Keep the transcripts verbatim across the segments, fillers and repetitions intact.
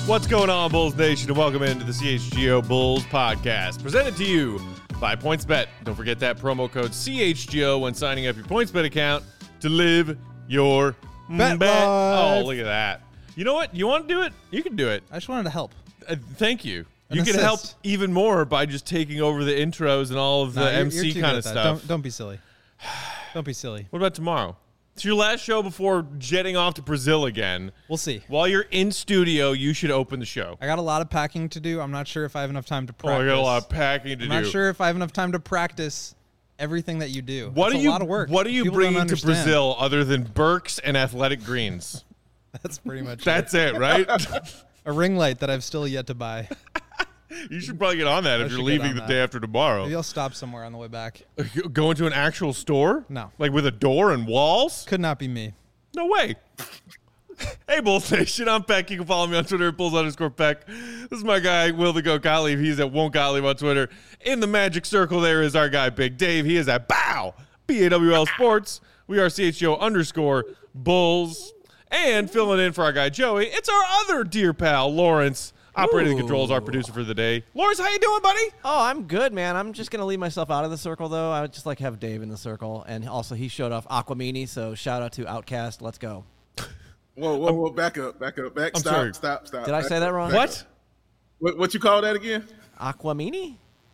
What's going on, Bulls Nation, and welcome into the C H G O Bulls podcast, presented to you by PointsBet. Don't forget that promo code C H G O when signing up your PointsBet account to live your bet. bet. Life. Oh, look at that. You know what? You want to do it? You can do it. I just wanted to help. Uh, thank you. An you can assist. help even more by just taking over the intros and all of the No, you're- M C you're too kind good of at stuff. that. Don't, don't be silly. Don't be silly. What about tomorrow? It's your last show before jetting off to Brazil again. We'll see. While you're in studio, you should open the show. I got a lot of packing to do. I'm not sure if I have enough time to Oh, I practice. got a lot of packing to I'm do. not sure if I have enough time to practice everything that you do. What It's are a you? lot of work. What are you People don't bringing to understand. Brazil other than Burks and athletic greens? That's pretty much That's it, right? a ring light that I've still yet to buy. You should probably get on that I if you're should get leaving on the that. day after tomorrow. Maybe I'll stop somewhere on the way back. Go into an actual store? No. Like with a door and walls? Could not be me. No way. Hey, Bulls Nation, I'm Peck. You can follow me on Twitter at Bulls underscore Peck. This is my guy, Will the Goat Gottlieb. He's at Won't Gottlieb on Twitter. In the magic circle there is our guy, Big Dave. He is at Bow, B A W L Sports. We are C H G O underscore Bulls. And filling in for our guy, Joey, it's our other dear pal, Lawrence. Operating the controls, our producer for the day. Lawrence, how you doing, buddy? Oh, I'm good, man. I'm just going to leave myself out of the circle, though. I would just like have Dave in the circle. And also, he showed off Aquamini, so shout out to Outcast. Let's go. Whoa, whoa, whoa! Back up, back up, back. I'm stop, sorry. stop, stop. Did I Back say that up, wrong? back What? up. What? What you call that again? Aquamini?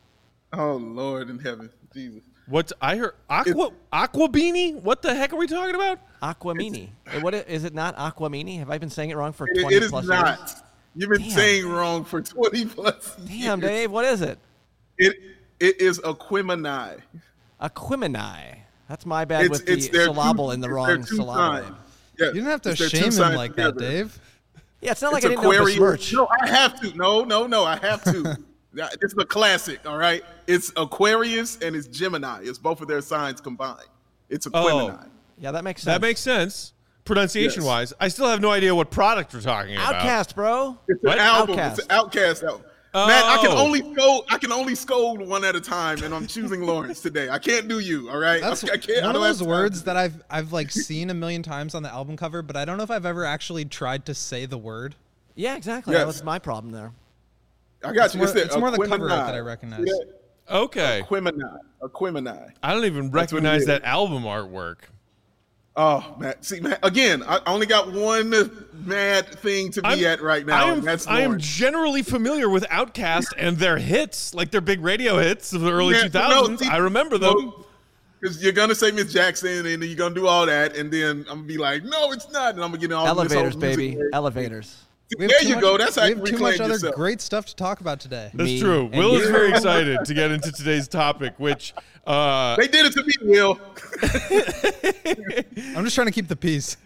Oh Lord in heaven, Jesus! What I heard? Aqua Aqua Beanie? What the heck are we talking about? Aquamini. Uh, What i- is it not Aquamini? Have I been saying it wrong for It, twenty it is plus not. years? You've been Damn. saying wrong for twenty plus years. Damn, Dave. What is it? It it is Aquemini. Aquimini. That's my bad It's with it's the their syllable two, in the it's wrong their two syllable. signs. name. Yeah, You didn't have to it's their two shame him signs like that, together. Dave. Yeah, it's not like It's I didn't know Aquarius. besmirch. No, I have to. No, no, no. I have to. Yeah, it's a classic. All right. It's Aquarius and it's Gemini. It's both of their signs combined. It's Aquemini. Oh. Yeah, that makes sense. That makes sense. Pronunciation Yes. wise, I still have no idea what product we're talking about. Outcast, bro. It's What? an album. Outkast. It's an Outcast album. Matt, I can Oh. only scold. I can only scold one at a time, and I'm choosing Lawrence today. I can't do you. All right. That's I, I can't. I one of don't have those time. words that I've I've like seen a million times on the album cover, but I don't know if I've ever actually tried to say the word. Yeah, exactly. Yes. That was my problem there. I got It's you. more, the it's more the cover art Aquemini. that I recognize. See that? Okay. Aquemini. Aquemini. I don't even That's what it recognize is. that album artwork. Oh, Matt. See, Matt. Again, I only got one mad thing to be I'm- at right now. I am, and that's I am Lawrence. generally familiar with Outkast and their hits, like their big radio hits of the early Yeah, two thousands. no, see- I remember them. Because you're gonna say Miss Jackson, and then you're gonna do all that, and then I'm gonna be like, no, it's not, and I'm gonna get in all this Elevators, whole music baby. nerd. Elevators. We have There too you much- go. That's how we you have too reclaim much other yourself. great stuff to talk about today. That's Me true. and Will is you. very excited to get into today's topic, which uh, They did it to me, Will. I'm just trying to keep the peace.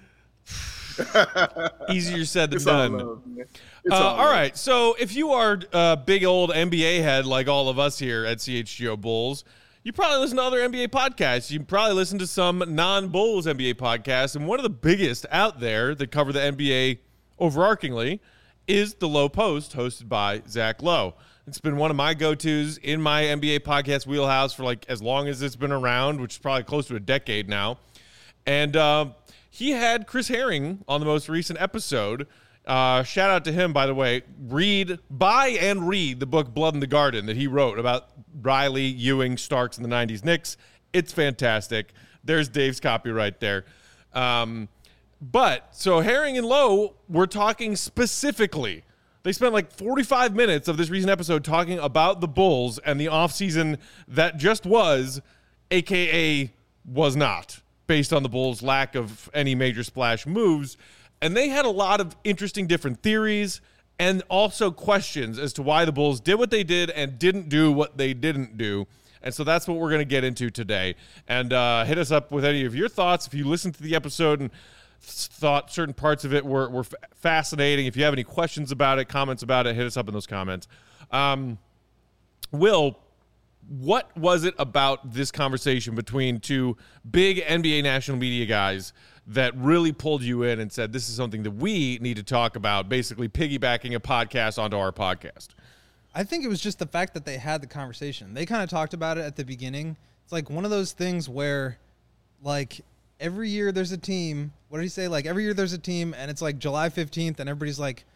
easier said than It's all done. love, man. It's Uh, all all love. right. So if you are a big old N B A head like all of us here at C H G O Bulls, you probably listen to other N B A podcasts. You probably listen to some non-Bulls N B A podcasts. And one of the biggest out there that cover the N B A overarchingly is The Low Post, hosted by Zach Lowe. It's been one of my go-tos in my N B A podcast wheelhouse for like as long as it's been around, which is probably close to a decade now. And uh, he had Chris Herring on the most recent episode. Uh, shout out to him, by the way. Read, buy and read the book Blood in the Garden that he wrote about Riley, Ewing, Starks, and the nineties Knicks. It's fantastic. There's Dave's copy right there. Um, but, so Herring and Lowe were talking specifically. They spent like forty-five minutes of this recent episode talking about the Bulls and the offseason that just was, a k a was not, based on the Bulls' lack of any major splash moves. And they had a lot of interesting different theories and also questions as to why the Bulls did what they did and didn't do what they didn't do. And so that's what we're going to get into today. And uh, hit us up with any of your thoughts. If you listened to the episode and thought certain parts of it were, were f- fascinating, if you have any questions about it, comments about it, hit us up in those comments. Um, Will, what was it about this conversation between two big N B A national media guys that really pulled you in and said, this is something that we need to talk about, basically piggybacking a podcast onto our podcast? I think it was just the fact that they had the conversation. They kind of talked about it at the beginning. It's like one of those things where, like, every year there's a team. What did he say? Like, every year there's a team, and it's like July fifteenth, and everybody's like,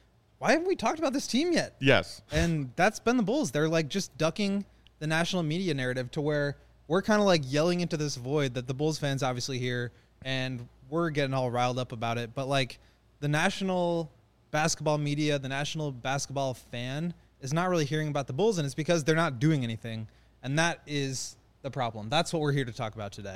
why haven't we talked about this team yet? Yes. And that's been the Bulls. They're like just ducking the national media narrative to where we're kind of like yelling into this void that the Bulls fans obviously hear, and we're getting all riled up about it. But like the national basketball media, the national basketball fan is not really hearing about the Bulls, and it's because they're not doing anything. And that is the problem. That's what we're here to talk about today.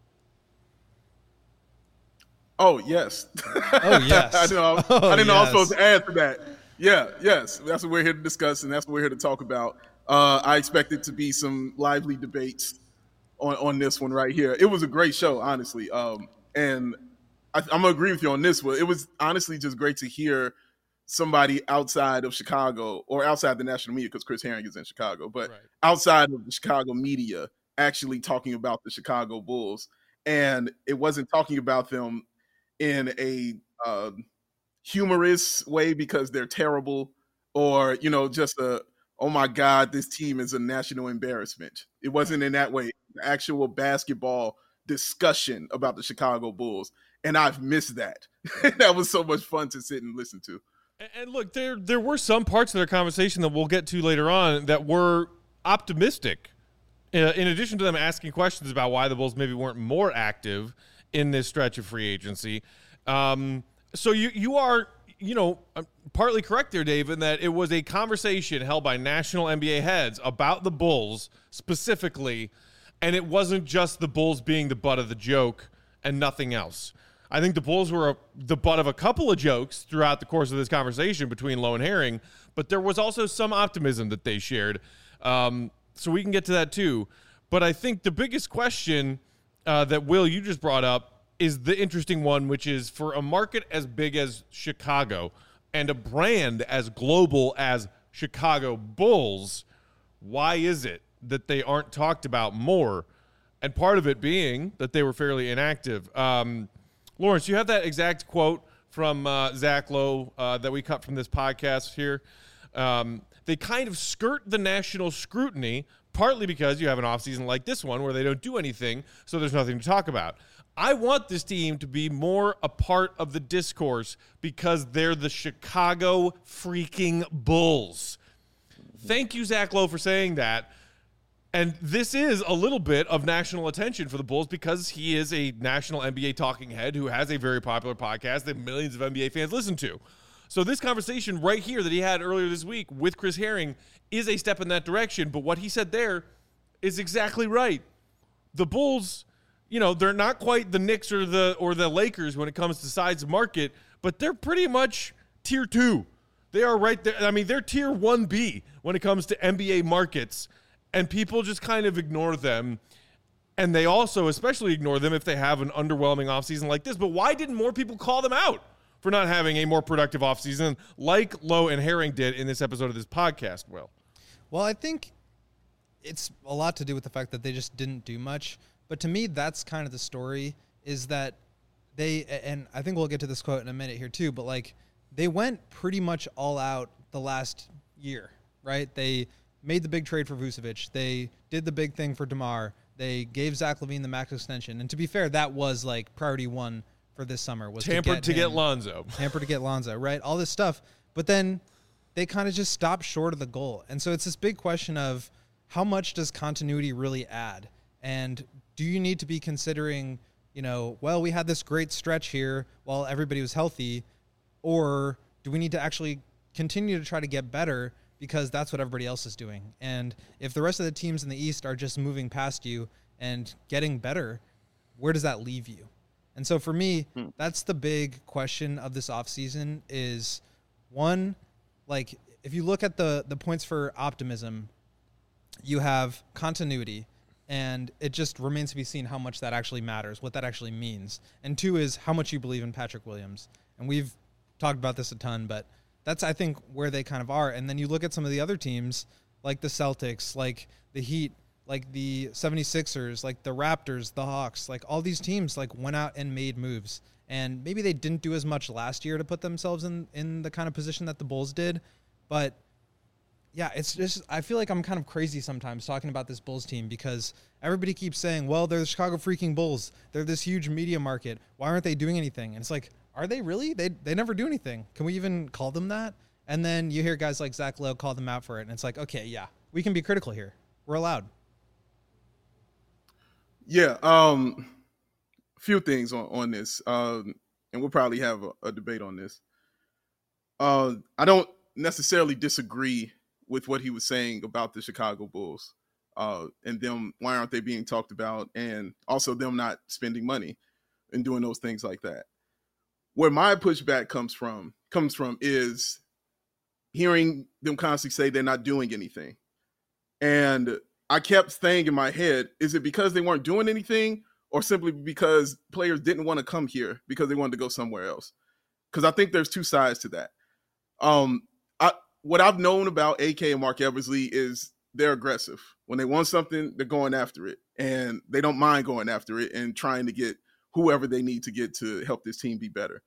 Oh, yes. Oh, yes. I, know, oh, I didn't know I was yes. supposed to add to that. Yeah, yes. That's what we're here to discuss, and that's what we're here to talk about. Uh, I expect it to be some lively debates on, on this one right here. It was a great show, honestly. Um, and I, I'm going to agree with you on this one. It was honestly just great to hear somebody outside of Chicago or outside the national media, because Chris Herring is in Chicago, but Right. outside of the Chicago media actually talking about the Chicago Bulls. And it wasn't talking about them in a uh, humorous way because they're terrible, or, you know, just a, oh my God, this team is a national embarrassment. It wasn't in that way. The actual basketball discussion about the Chicago Bulls. And I've missed that. That was so much fun to sit and listen to. And, and look, there there were some parts of their conversation that we'll get to later on that were optimistic. Uh, in addition to them asking questions about why the Bulls maybe weren't more active in this stretch of free agency. Um, so you you are, you know, partly correct there, Dave, in that it was a conversation held by national N B A heads about the Bulls specifically, and it wasn't just the Bulls being the butt of the joke and nothing else. I think the Bulls were a, the butt of a couple of jokes throughout the course of this conversation between Lowe and Herring, but there was also some optimism that they shared. Um, so we can get to that too. But I think the biggest question uh, that, Will, you just brought up is the interesting one, which is for a market as big as Chicago and a brand as global as Chicago Bulls, why is it that they aren't talked about more? And part of it being that they were fairly inactive. Um, Lawrence, you have that exact quote from uh, Zach Lowe uh, that we cut from this podcast here. Um, they kind of skirt the national scrutiny, partly because you have an offseason like this one where they don't do anything, so there's nothing to talk about. I want this team to be more a part of the discourse because they're the Chicago freaking Bulls. Thank you, Zach Lowe, for saying that. And this is a little bit of national attention for the Bulls because he is a national N B A talking head who has a very popular podcast that millions of N B A fans listen to. So this conversation right here that he had earlier this week with Chris Herring is a step in that direction. But what he said there is exactly right. The Bulls, you know, they're not quite the Knicks or the or the Lakers when it comes to size of market, but they're pretty much tier two. They are right there. I mean, they're tier one B when it comes to N B A markets. And people just kind of ignore them. And they also especially ignore them if they have an underwhelming offseason like this. But why didn't more people call them out for not having a more productive offseason like Lowe and Herring did in this episode of this podcast, Will? Well, I think it's a lot to do with the fact that they just didn't do much. But to me, that's kind of the story, is that they, and I think we'll get to this quote in a minute here too, but like they went pretty much all out the last year, right? They made the big trade for Vucevic. They did the big thing for DeMar. They gave Zach LaVine the max extension. And to be fair, that was like priority one for this summer. Was Tampered to get, to get him, Lonzo. Tampered to get Lonzo, right? All this stuff. But then they kind of just stopped short of the goal. And so it's this big question of how much does continuity really add? And do you need to be considering, you know, well, we had this great stretch here while everybody was healthy, or do we need to actually continue to try to get better because that's what everybody else is doing? And if the rest of the teams in the East are just moving past you and getting better, where does that leave you? And so for me, hmm. that's the big question of this offseason is, one, like if you look at the the points for optimism, you have continuity, and it just remains to be seen how much that actually matters, what that actually means. And two is how much you believe in Patrick Williams. And we've talked about this a ton, but that's, I think, where they kind of are. And then you look at some of the other teams, like the Celtics, like the Heat, like the seventy-sixers, like the Raptors, the Hawks, like all these teams like went out and made moves. And maybe they didn't do as much last year to put themselves in, in the kind of position that the Bulls did. But, yeah, it's just, I feel like I'm kind of crazy sometimes talking about this Bulls team because everybody keeps saying, well, they're the Chicago freaking Bulls. They're this huge media market. Why aren't they doing anything? And it's like, are they really? They they never do anything. Can we even call them that? And then you hear guys like Zach Lowe call them out for it, and it's like, okay, yeah, we can be critical here. We're allowed. Yeah, um, a few things on, on this, um, and we'll probably have a, a debate on this. Uh, I don't necessarily disagree with what he was saying about the Chicago Bulls uh, and them, why aren't they being talked about, and also them not spending money and doing those things like that. Where my pushback comes from, comes from is hearing them constantly say they're not doing anything. And I kept saying in my head, is it because they weren't doing anything or simply because players didn't want to come here because they wanted to go somewhere else? Because I think there's two sides to that. Um, I, what I've known about A K and Mark Eversley is they're aggressive. When they want something, they're going after it. And they don't mind going after it and trying to get whoever they need to get to help this team be better.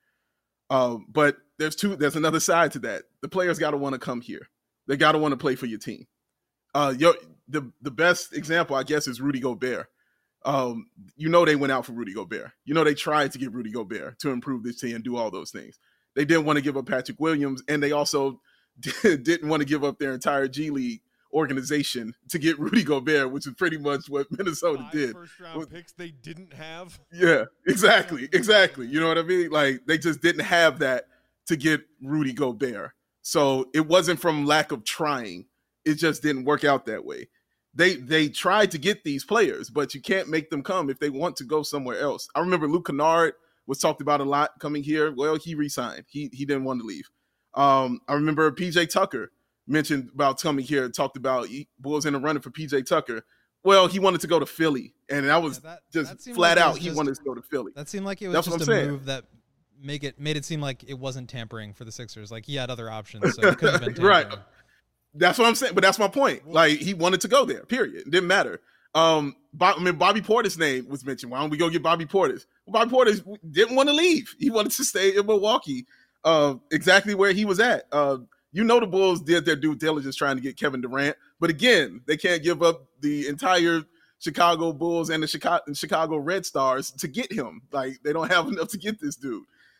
Um, but there's two. There's another side to that. The players got to want to come here. They got to want to play for your team. Uh, your, the the best example, I guess, is Rudy Gobert. Um, you know they went out for Rudy Gobert. You know they tried to get Rudy Gobert to improve this team and do all those things. They didn't want to give up Patrick Williams, and they also did, didn't want to give up their entire G League organization to get Rudy Gobert, which is pretty much what Minnesota Five did. First round picks they didn't have. Yeah, exactly, exactly. You know what I mean? Like they just didn't have that to get Rudy Gobert. So it wasn't from lack of trying. It just didn't work out that way. They they tried to get these players, but you can't make them come if they want to go somewhere else. I remember Luke Kennard was talked about a lot coming here. Well, he resigned. He he didn't want to leave. Um, I remember P J Tucker mentioned about coming here, talked about he, Bulls in the running for P J Tucker. Well, he wanted to go to Philly, and that was yeah, that, just that flat like out. He just, wanted to go to Philly. That seemed like it was That's just a saying. move that make it made it seem like it wasn't tampering for the Sixers. Like he had other options, so it couldn't have been tampering. Right. That's what I'm saying. But that's my point. Like he wanted to go there. Period. It didn't matter. Um, Bob, I mean, Bobby Portis' name was mentioned. Why don't we go get Bobby Portis? Well, Bobby Portis didn't want to leave. He wanted to stay in Milwaukee, uh, exactly where he was at. Uh, you know, the Bulls did their due diligence trying to get Kevin Durant, but again, they can't give up the entire Chicago Bulls and the Chicago, Chicago Red Stars to get him. Like they don't have enough to get this dude.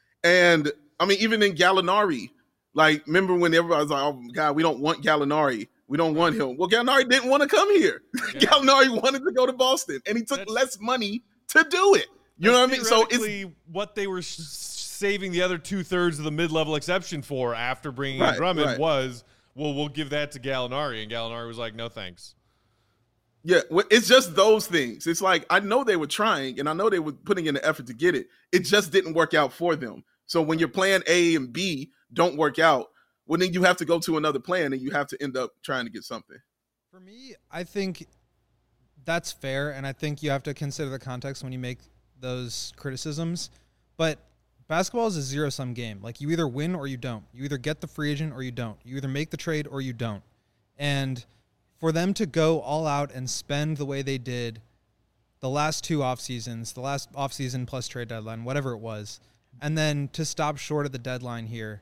And I mean, even in Gallinari, like remember when everybody was like, "Oh God, we don't want Gallinari. We don't want him." Well, Gallinari didn't want to come here. Yeah. Gallinari wanted to go to Boston, and he took that's, less money to do it. You know what I mean? So it's what they were sh- saving the other two thirds of the mid-level exception for after bringing right, in Drummond right. was, well, we'll give that to Gallinari, and Gallinari was like, no thanks. Yeah, it's just those things. It's like I know they were trying, and I know they were putting in the effort to get it. It just didn't work out for them. So when your plan A and B don't work out, well, then you have to go to another plan, and you have to end up trying to get something. For me, I think that's fair, and I think you have to consider the context when you make those criticisms. But basketball is a zero-sum game. Like, you either win or you don't. You either get the free agent or you don't. You either make the trade or you don't. And for them to go all out and spend the way they did the last two off seasons, the last offseason plus trade deadline, whatever it was, and then to stop short of the deadline here,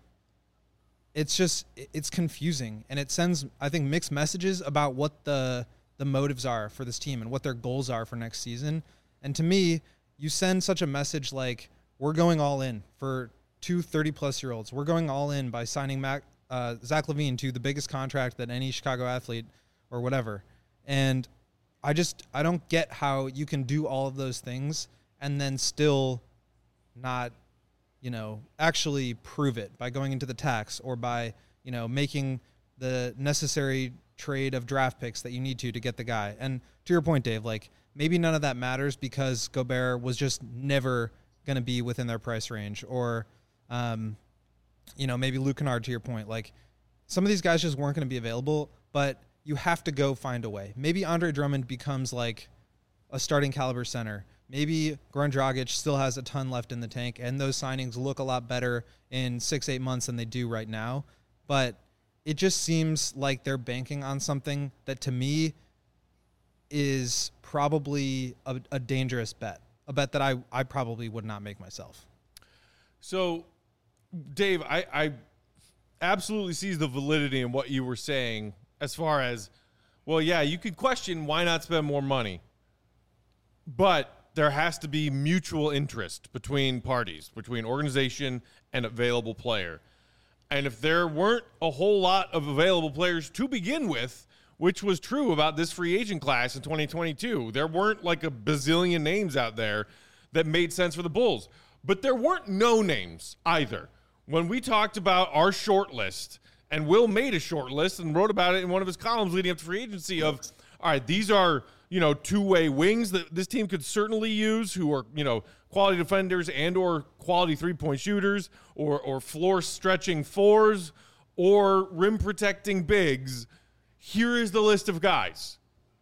it's just, it's confusing. And it sends, I think, mixed messages about what the the motives are for this team and what their goals are for next season. And to me, you send such a message like, we're going all in for two thirty-plus-year-olds. We're going all in by signing Mac, uh, Zach LaVine to the biggest contract that any Chicago athlete or whatever. And I just, I don't get how you can do all of those things and then still not, you know, actually prove it by going into the tax or by, you know, making the necessary trade of draft picks that you need to to get the guy. And to your point, Dave, like maybe none of that matters because Gobert was just never going to be within their price range, or, um, you know, maybe Luke Kennard, to your point, like some of these guys just weren't going to be available, but you have to go find a way. Maybe Andre Drummond becomes like a starting caliber center. Maybe Goran Dragic still has a ton left in the tank, and those signings look a lot better in six, eight months than they do right now. But it just seems like they're banking on something that to me is probably a, a dangerous bet, a bet that I, I probably would not make myself. So, Dave, I, I absolutely sees the validity in what you were saying as far as, well, yeah, you could question why not spend more money, but there has to be mutual interest between parties, between organization and available player. And if there weren't a whole lot of available players to begin with, which was true about this free agent class in twenty twenty-two, there weren't like a bazillion names out there that made sense for the Bulls. But there weren't no names either. When we talked about our short list, and Will made a short list and wrote about it in one of his columns leading up to free agency of, all right, these are, you know, two-way wings that this team could certainly use who are, you know, quality defenders and or quality three-point shooters or or floor-stretching fours or rim-protecting bigs. Here is the list of guys.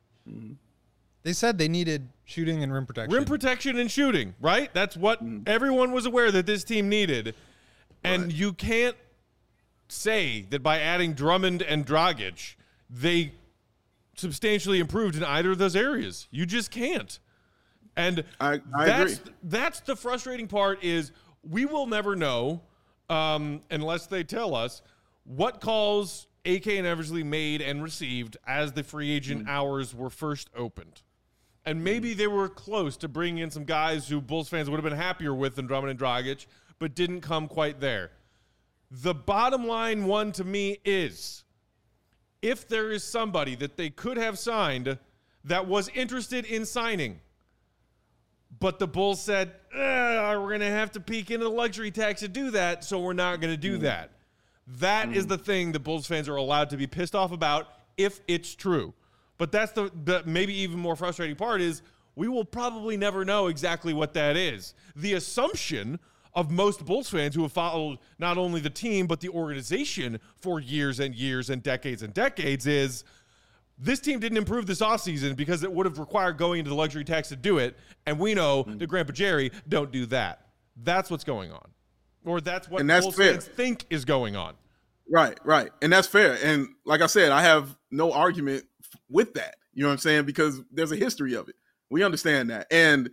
They said they needed shooting and rim protection. Rim protection and shooting, right? That's what mm. everyone was aware that this team needed. And right. you can't say that by adding Drummond and Dragic, they substantially improved in either of those areas. You just can't. And I, I that's, agree. that's the frustrating part is we will never know, um, unless they tell us, what calls A K and Eversley made and received as the free agent mm. hours were first opened. And maybe they were close to bringing in some guys who Bulls fans would have been happier with than Drummond and Dragic, but didn't come quite there. The bottom line one to me is, if there is somebody that they could have signed that was interested in signing, but the Bulls said, eh, we're going to have to peek into the luxury tax to do that, so we're not going to do mm. that. That mm. is the thing that Bulls fans are allowed to be pissed off about if it's true. But that's the, the maybe even more frustrating part is we will probably never know exactly what that is. The assumption of most Bulls fans who have followed not only the team but the organization for years and years and decades and decades is this team didn't improve this offseason because it would have required going into the luxury tax to do it, and we know mm. that Grandpa Jerry don't do that. That's what's going on. Or that's what that's Bulls fair. fans think is going on. Right, right. And that's fair. And like I said, I have no argument with that. You know what I'm saying? Because there's a history of it. We understand that. And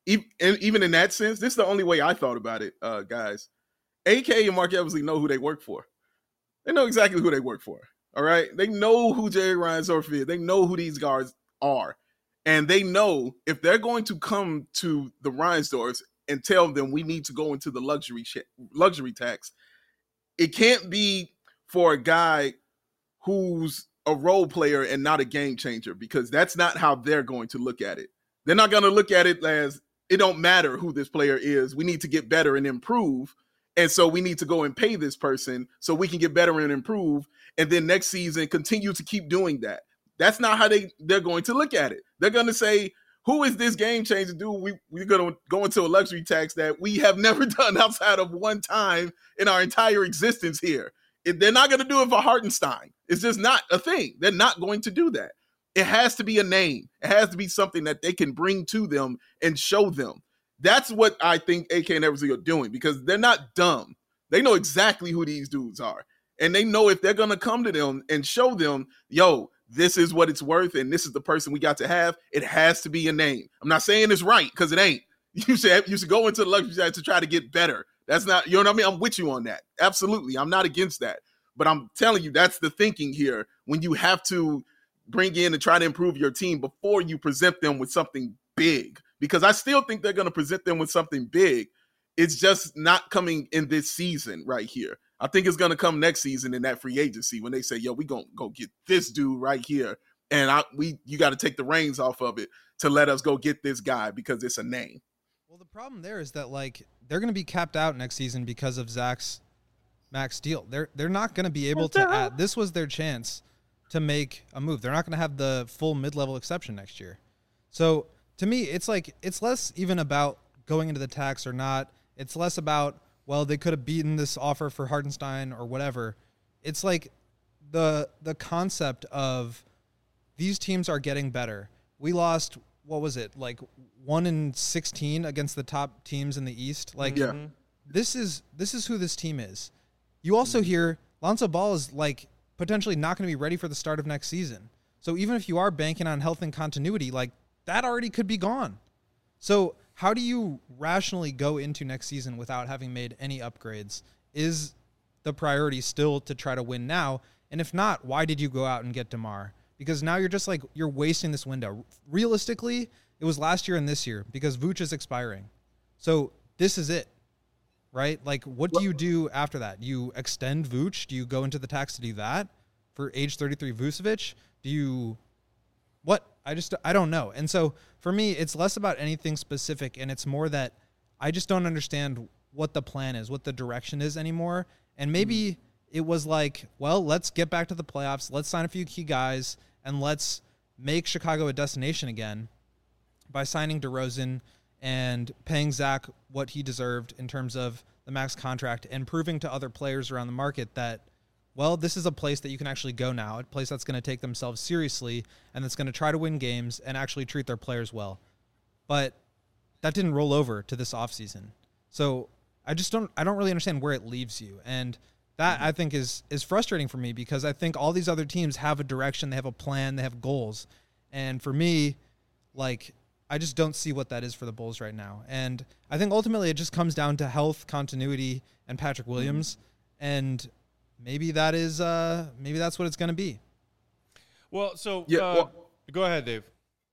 even in that sense, this is the only way I thought about it, uh, guys. A K and Mark Eversley know who they work for. They know exactly who they work for. All right? They know who Jerry Reinsdorf is. They know who these guards are. And they know if they're going to come to the Reinsdorfs and tell them we need to go into the luxury sh- luxury tax, it can't be for a guy who's a role player and not a game changer, because that's not how they're going to look at it. They're not going to look at it as it don't matter who this player is. We need to get better and improve. And so we need to go and pay this person so we can get better and improve. And then next season, continue to keep doing that. That's not how they, they're going to look at it. They're going to say, who is this game changer dude? We, we're going to go into a luxury tax that we have never done outside of one time in our entire existence here. It, they're not going to do it for Hartenstein. It's just not a thing. They're not going to do that. It has to be a name. It has to be something that they can bring to them and show them. That's what I think A K and Eversley are doing, because they're not dumb. They know exactly who these dudes are. And they know if they're going to come to them and show them, yo, this is what it's worth and this is the person we got to have, it has to be a name. I'm not saying it's right, because it ain't. You should, you should go into the luxury tax to try to get better. That's not, you know what I mean? I'm with you on that. Absolutely. I'm not against that. But I'm telling you, that's the thinking here when you have to bring in and try to improve your team before you present them with something big. Because I still think they're going to present them with something big. It's just not coming in this season right here. I think it's going to come next season in that free agency when they say, yo, we going to go get this dude right here. And I, we, you got to take the reins off of it to let us go get this guy because it's a name. Well, the problem there is that, like, they're going to be capped out next season because of Zach's max deal. They're they're not going to be able to add. This was their chance to make a move. They're not going to have the full mid-level exception next year. So to me, it's like it's less even about going into the tax or not. It's less about, well, they could have beaten this offer for Hartenstein or whatever. It's like the the concept of these teams are getting better. We lost, what was it, like one in sixteen against the top teams in the East. Like, yeah. this is this is who this team is. You also hear Lonzo Ball is like potentially not going to be ready for the start of next season. So even if you are banking on health and continuity, like that already could be gone. So how do you rationally go into next season without having made any upgrades? Is the priority still to try to win now? And if not, why did you go out and get DeMar? Because now you're just like, you're wasting this window. Realistically, it was last year and this year because Vooch is expiring. So this is it. right? Like, what do you do after that? You extend Vooch? Do you go into the tax to do that for age thirty-three Vucevic? Do you what? I just I don't know. And so for me, it's less about anything specific, and it's more that I just don't understand what the plan is, what the direction is anymore. And maybe it was like, well, let's get back to the playoffs. Let's sign a few key guys, and let's make Chicago a destination again by signing DeRozan and paying Zach what he deserved in terms of the max contract, and proving to other players around the market that, well, this is a place that you can actually go now, a place that's going to take themselves seriously and that's going to try to win games and actually treat their players well. But that didn't roll over to this offseason. So I just don't I don't really understand where it leaves you. And that, mm-hmm. I think, is is frustrating for me, because I think all these other teams have a direction, they have a plan, they have goals. And for me, like, I just don't see what that is for the Bulls right now. And I think ultimately it just comes down to health, continuity, and Patrick Williams. Mm-hmm. And maybe that is uh, maybe that's what it's going to be. Well, so yeah, uh, well, go ahead, Dave.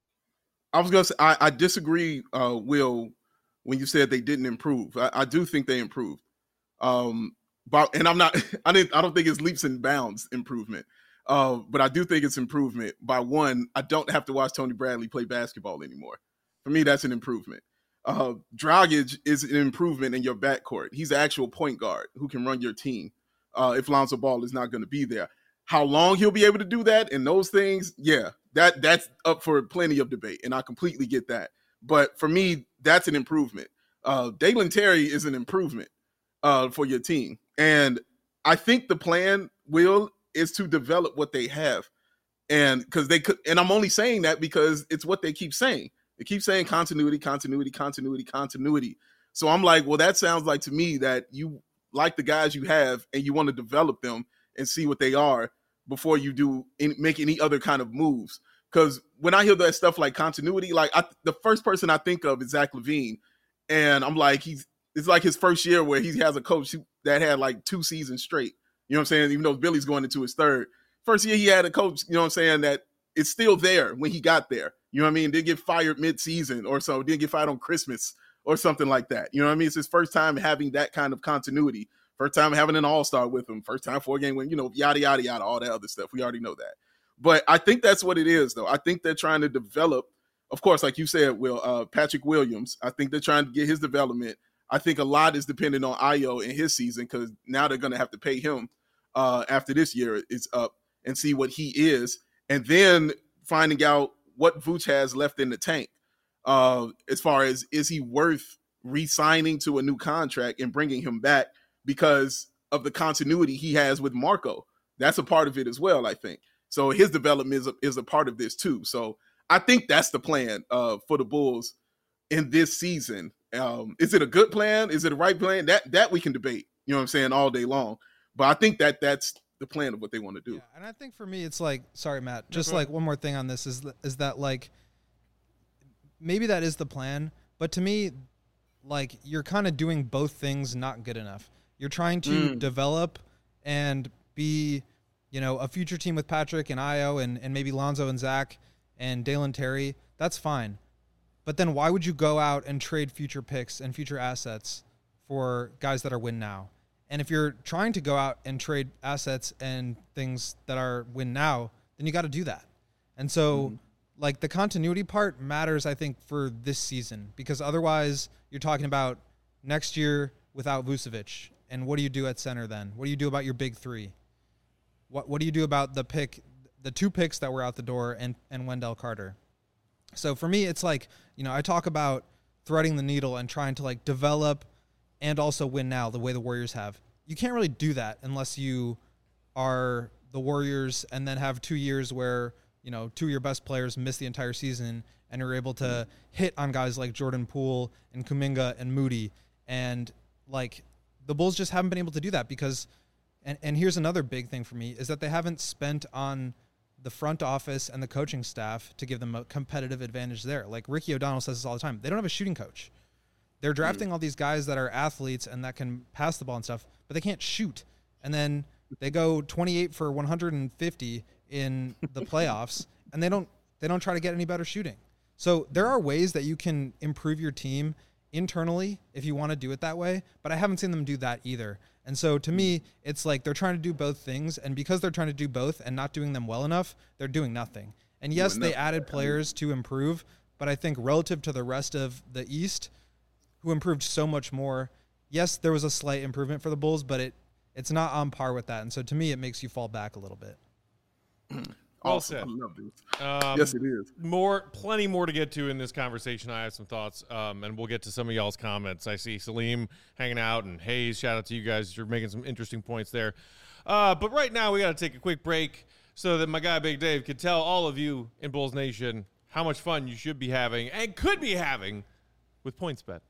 I was going to say, I, I disagree, uh, Will, when you said they didn't improve. I, I do think they improved. Um, but, and I'm not, I didn't, I don't think it's leaps and bounds improvement. Uh, but I do think it's improvement. By one, I don't have to watch Tony Bradley play basketball anymore. For me, that's an improvement. Uh, Dragic is an improvement in your backcourt. He's an actual point guard who can run your team uh, if Lonzo Ball is not going to be there. How long he'll be able to do that and those things, yeah, that that's up for plenty of debate, and I completely get that. But for me, that's an improvement. Uh, Dalen Terry is an improvement uh, for your team. And I think the plan, Will, is to develop what they have. And because they could, and I'm only saying that because it's what they keep saying. They keep saying continuity, continuity, continuity, continuity. So I'm like, well, that sounds like to me that you like the guys you have and you want to develop them and see what they are before you do any, make any other kind of moves. Because when I hear that stuff like continuity, like I, the first person I think of is Zach LaVine. And I'm like, he's it's like his first year where he has a coach that had like two seasons straight. You know what I'm saying? Even though Billy's going into his third. First year he had a coach, you know what I'm saying, that it's still there when he got there. You know what I mean? Didn't get fired mid-season or so. Didn't get fired on Christmas or something like that. You know what I mean? It's his first time having that kind of continuity. First time having an all-star with him. First time four-game win, you know, yada, yada, yada, all that other stuff. We already know that. But I think that's what it is, though. I think they're trying to develop, of course, like you said, Will, uh, Patrick Williams. I think they're trying to get his development. I think a lot is dependent on Ayo in his season, because now they're going to have to pay him uh, after this year is up and see what he is. And then finding out what Vooch has left in the tank uh, as far as, is he worth re-signing to a new contract and bringing him back because of the continuity he has with Marco. That's a part of it as well, I think. So his development is a, is a part of this too. So I think that's the plan uh, for the Bulls in this season. Um, is it a good plan? Is it a right plan? That that we can debate, you know what I'm saying, all day long. But I think that that's the plan of what they want to do. Yeah, and I think for me, it's like, sorry, Matt, just like one more thing on this is, is that like, maybe that is the plan, but to me, like, you're kind of doing both things not good enough. You're trying to mm. develop and be, you know, a future team with Patrick and Ayo and, and maybe Lonzo and Zach and Dalen Terry. That's fine. But then why would you go out and trade future picks and future assets for guys that are win now? And if you're trying to go out and trade assets and things that are win now, then you got to do that. And so, mm-hmm. like, the continuity part matters, I think, for this season, because otherwise you're talking about next year without Vucevic. And what do you do at center then? What do you do about your big three? What What do you do about the pick, the two picks that were out the door and, and Wendell Carter? So for me, it's like, you know, I talk about threading the needle and trying to, like, develop and also win now the way the Warriors have. You can't really do that unless you are the Warriors and then have two years where, you know, two of your best players miss the entire season and are able to hit on guys like Jordan Poole and Kuminga and Moody. And, like, the Bulls just haven't been able to do that because, and, and here's another big thing for me, is that they haven't spent on the front office and the coaching staff to give them a competitive advantage there. Like Ricky O'Donnell says this all the time. They don't have a shooting coach. They're drafting all these guys that are athletes and that can pass the ball and stuff, but they can't shoot. And then they go twenty-eight for one hundred fifty in the playoffs, and they don't they don't try to get any better shooting. So there are ways that you can improve your team internally if you want to do it that way, but I haven't seen them do that either. And so to me, it's like they're trying to do both things, and because they're trying to do both and not doing them well enough, they're doing nothing. And yes, they added players to improve, but I think relative to the rest of the East, who improved so much more, yes, there was a slight improvement for the Bulls, but it it's not on par with that. And so to me, it makes you fall back a little bit. Well Awesome. said. I love this. Um, Yes, it is. More, plenty more to get to in this conversation. I have some thoughts, um, and we'll get to some of y'all's comments. I see Salim hanging out, and Hayes, shout out to you guys. You're making some interesting points there. Uh, but right now, we got to take a quick break so that my guy Big Dave could tell all of you in Bulls Nation how much fun you should be having and could be having with PointsBet.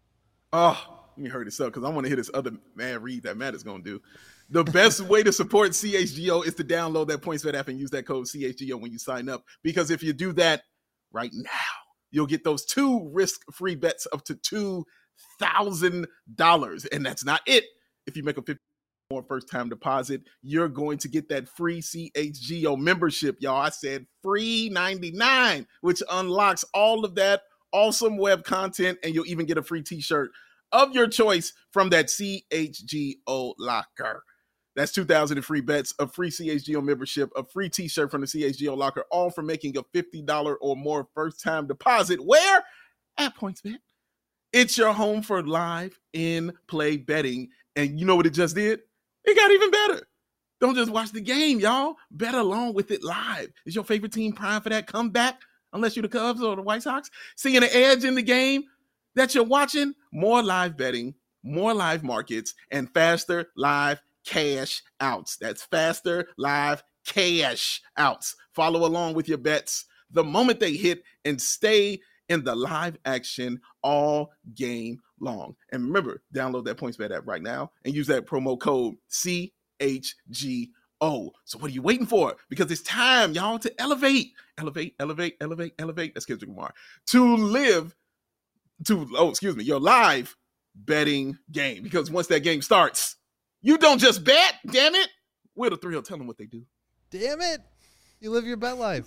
Oh, let me hurry this up because I want to hear this other man read that Matt is going to do. The best way to support C H G O is to download that PointsBet app and use that code C H G O when you sign up. Because if you do that right now, you'll get those two risk-free bets up to two thousand dollars. And that's not it. If you make a fifty dollars more first-time deposit, you're going to get that free C H G O membership, y'all. I said free ninety-nine, which unlocks all of that awesome web content, and you'll even get a free t-shirt of your choice from that C H G O locker. That's two thousand in free bets, a free C H G O membership, a free t-shirt from the C H G O locker, all for making a fifty dollars or more first-time deposit. Where? At PointsBet. It's your home for live in-play betting. And you know what it just did? It got even better. Don't just watch the game, y'all. Bet along with it live. Is your favorite team primed for that comeback? Unless you're the Cubs or the White Sox. Seeing an edge in the game that you're watching? More live betting, more live markets, and faster live cash outs. That's faster live cash outs. Follow along with your bets the moment they hit and stay in the live action all game long. And remember, download that PointsBet app right now and use that promo code C H G O. So what are you waiting for? Because it's time, y'all, to elevate, elevate, elevate, elevate, elevate. That's Kendrick Lamar. To live, to, oh, excuse me, your live betting game. Because once that game starts, you don't just bet, damn it. We're the thrill. Tell them what they do. Damn it. You live your bet life.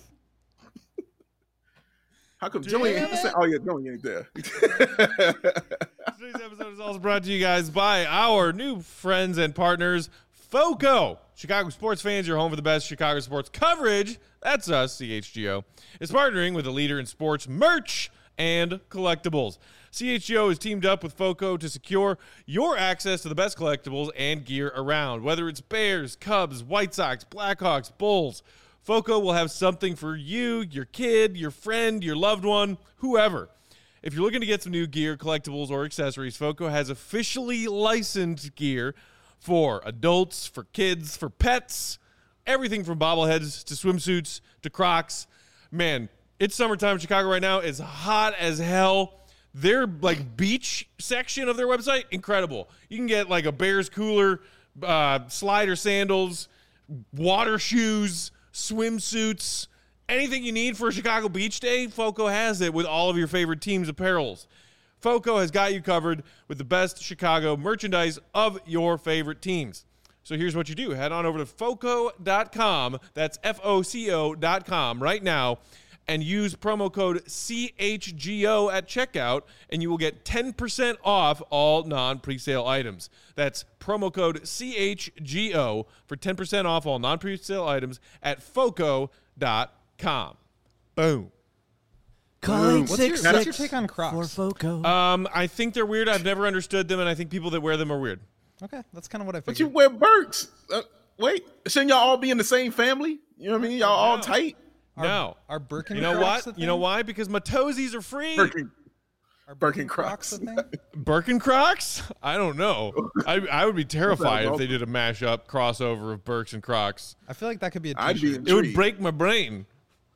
How come Joey ain't saying, oh yeah, Joey ain't there. Today's episode is also brought to you guys by our new friends and partners, FOCO. Chicago sports fans, your home for the best Chicago sports coverage. That's us, C H G O. Is partnering with a leader in sports merch and collectibles. C H G O is teamed up with FOCO to secure your access to the best collectibles and gear around. Whether it's Bears, Cubs, White Sox, Blackhawks, Bulls, FOCO will have something for you, your kid, your friend, your loved one, whoever. If you're looking to get some new gear, collectibles, or accessories, FOCO has officially licensed gear for adults, for kids, for pets, everything from bobbleheads to swimsuits to Crocs. Man, it's summertime in Chicago right now. It's hot as hell. Their like beach section of their website, incredible. You can get like a Bears cooler, uh, slider sandals, water shoes, swimsuits, anything you need for a Chicago beach day. FOCO has it with all of your favorite teams' apparels. FOCO has got you covered with the best Chicago merchandise of your favorite teams. So here's what you do. Head on over to foco dot com. That's F O C O dot com right now. And use promo code C H G O at checkout, and you will get ten percent off all non-presale items. That's promo code C H G O for ten percent off all non-presale items at foco dot com. Boom. Calling What's six your, what's six your take on Crocs? for FOCO. Um, I think they're weird. I've never understood them, and I think people that wear them are weird. Okay, that's kind of what I But you figured. wear Birks. Uh, wait, shouldn't y'all all be in the same family? You know what I mean? Y'all all No. tight. No. Are Birkenstocks You know a what? thing? You know why? Because my toesies are free. Birkin. Are Birken Birkenstocks Crocs. a thing? Birken Crocs? I don't know. I, I would be terrified if awful. they did a mashup crossover of Birks and Crocs. I feel like that could be a I'd be t-shirt. in- It would Intrigued. break my brain.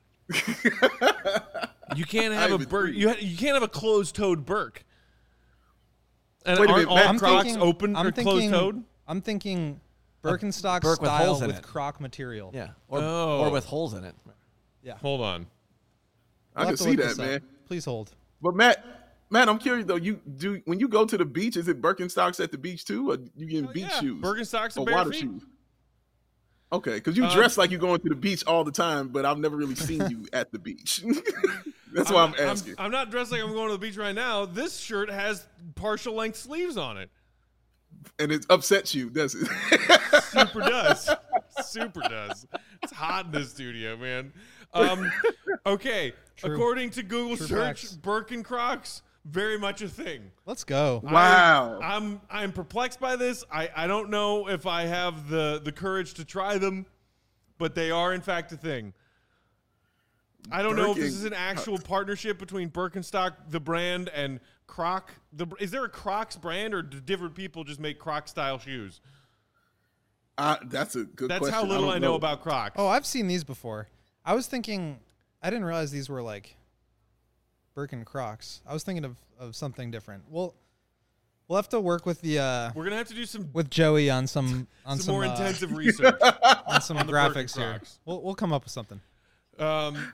You can't have a I'm Birk. You, ha- you can't have a closed-toed Birk. And Wait a aren't minute, all Matt, I'm Crocs thinking, open I'm or thinking, closed-toed? I'm thinking Birkenstock Birk with style holes in with it. Croc material. Yeah, or, Oh. or with holes in it. Yeah. Hold on. I We'll can have to see look that, this up. man. Please hold. But Matt, Matt, I'm curious though. You do when you go to the beach, is it Birkenstocks at the beach too, or you getting Oh, beach yeah. shoes Birkenstocks or and bare water feet. shoes? Okay, because you Uh, dress like you're going to the beach all the time, but I've never really seen you at the beach. That's why I'm, I'm asking. I'm, I'm not dressed like I'm going to the beach right now. This shirt has partial length sleeves on it. And it upsets you, does it? Super does. Super does. It's hot in this studio, man. Um, okay, True. according to Google True search, facts. Birkenstocks, very much a thing. Let's go. Wow. I, I'm I'm perplexed by this. I, I don't know if I have the, the courage to try them, but they are in fact a thing. I don't know if this is an actual partnership between Birkenstock, the brand, and Croc. The is there a Crocs brand, or do different people just make Croc style shoes? Uh, that's a good That's question. how little don't I know about Crocs. Oh, I've seen these before. I was thinking, I didn't realize these were like Birkin Crocs. I was thinking of, of something different. We'll we'll have to work with the uh, We're gonna have to do some with Joey on some on some, some, more uh, intensive research. on some on the graphics Birkin here. Crocs. We'll we'll come up with something. Um,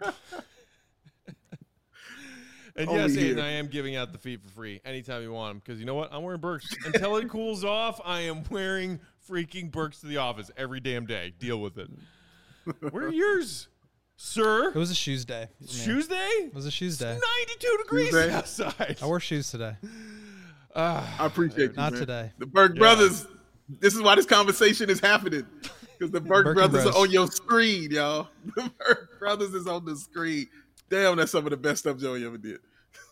and Over yes, here. Aiden, I am giving out the feet for free anytime you want them, because you know what? I'm wearing Birks. Until it cools off, I am wearing freaking Birks to the office every damn day. Deal with it. Where are yours, sir? It was a shoes day. for me. Shoes day? It was a shoes day. ninety-two degrees Shoes day? outside. I wore shoes today. Uh, I appreciate you, Not man. today. The Burke Yeah. brothers. This is why this conversation is happening. Because the Burke Birkin brothers Bros. are on your screen, y'all. The Burke brothers is on the screen. Damn, that's some of the best stuff Joey ever did.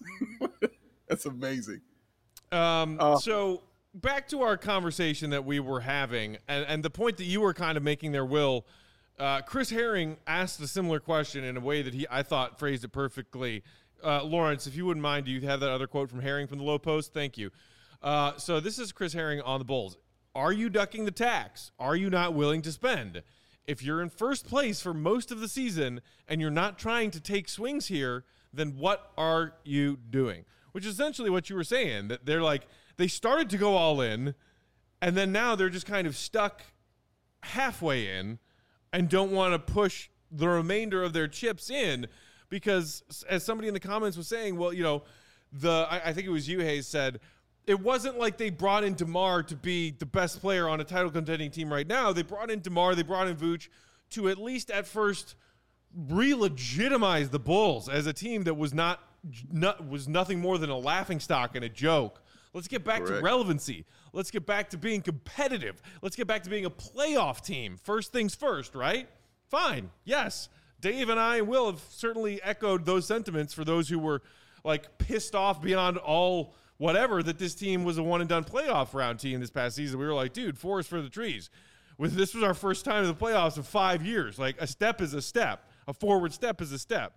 That's amazing. Um, Uh, so back to our conversation that we were having, and, and the point that you were kind of making there, Will. Uh, Chris Herring asked a similar question in a way that he, I thought, phrased it perfectly. Uh, Lawrence, if you wouldn't mind, do you have that other quote from Herring from the Low Post? Thank you. Uh, so this is Chris Herring on the Bulls. Are you ducking the tax? Are you not willing to spend? If you're in first place for most of the season and you're not trying to take swings here, then what are you doing? Which is essentially what you were saying, that they're like, they started to go all in, and then now they're just kind of stuck halfway in and don't want to push the remainder of their chips in because, as somebody in the comments was saying, well, you know, the I, I think it was you, Hayes, said, it wasn't like they brought in DeMar to be the best player on a title contending team right now. They brought in DeMar, they brought in Vooch to at least at first re-legitimize the Bulls as a team that was not, not was nothing more than a laughingstock and a joke. Let's get back Correct. to relevancy. Let's get back to being competitive. Let's get back to being a playoff team. First things first, right? Fine. Yes. Dave and I and Will have certainly echoed those sentiments for those who were like pissed off beyond all whatever that this team was a one and done playoff round team this past season. We were like, dude, forest for the trees. With this was our first time in the playoffs in five years. Like a step is a step. A forward step is a step.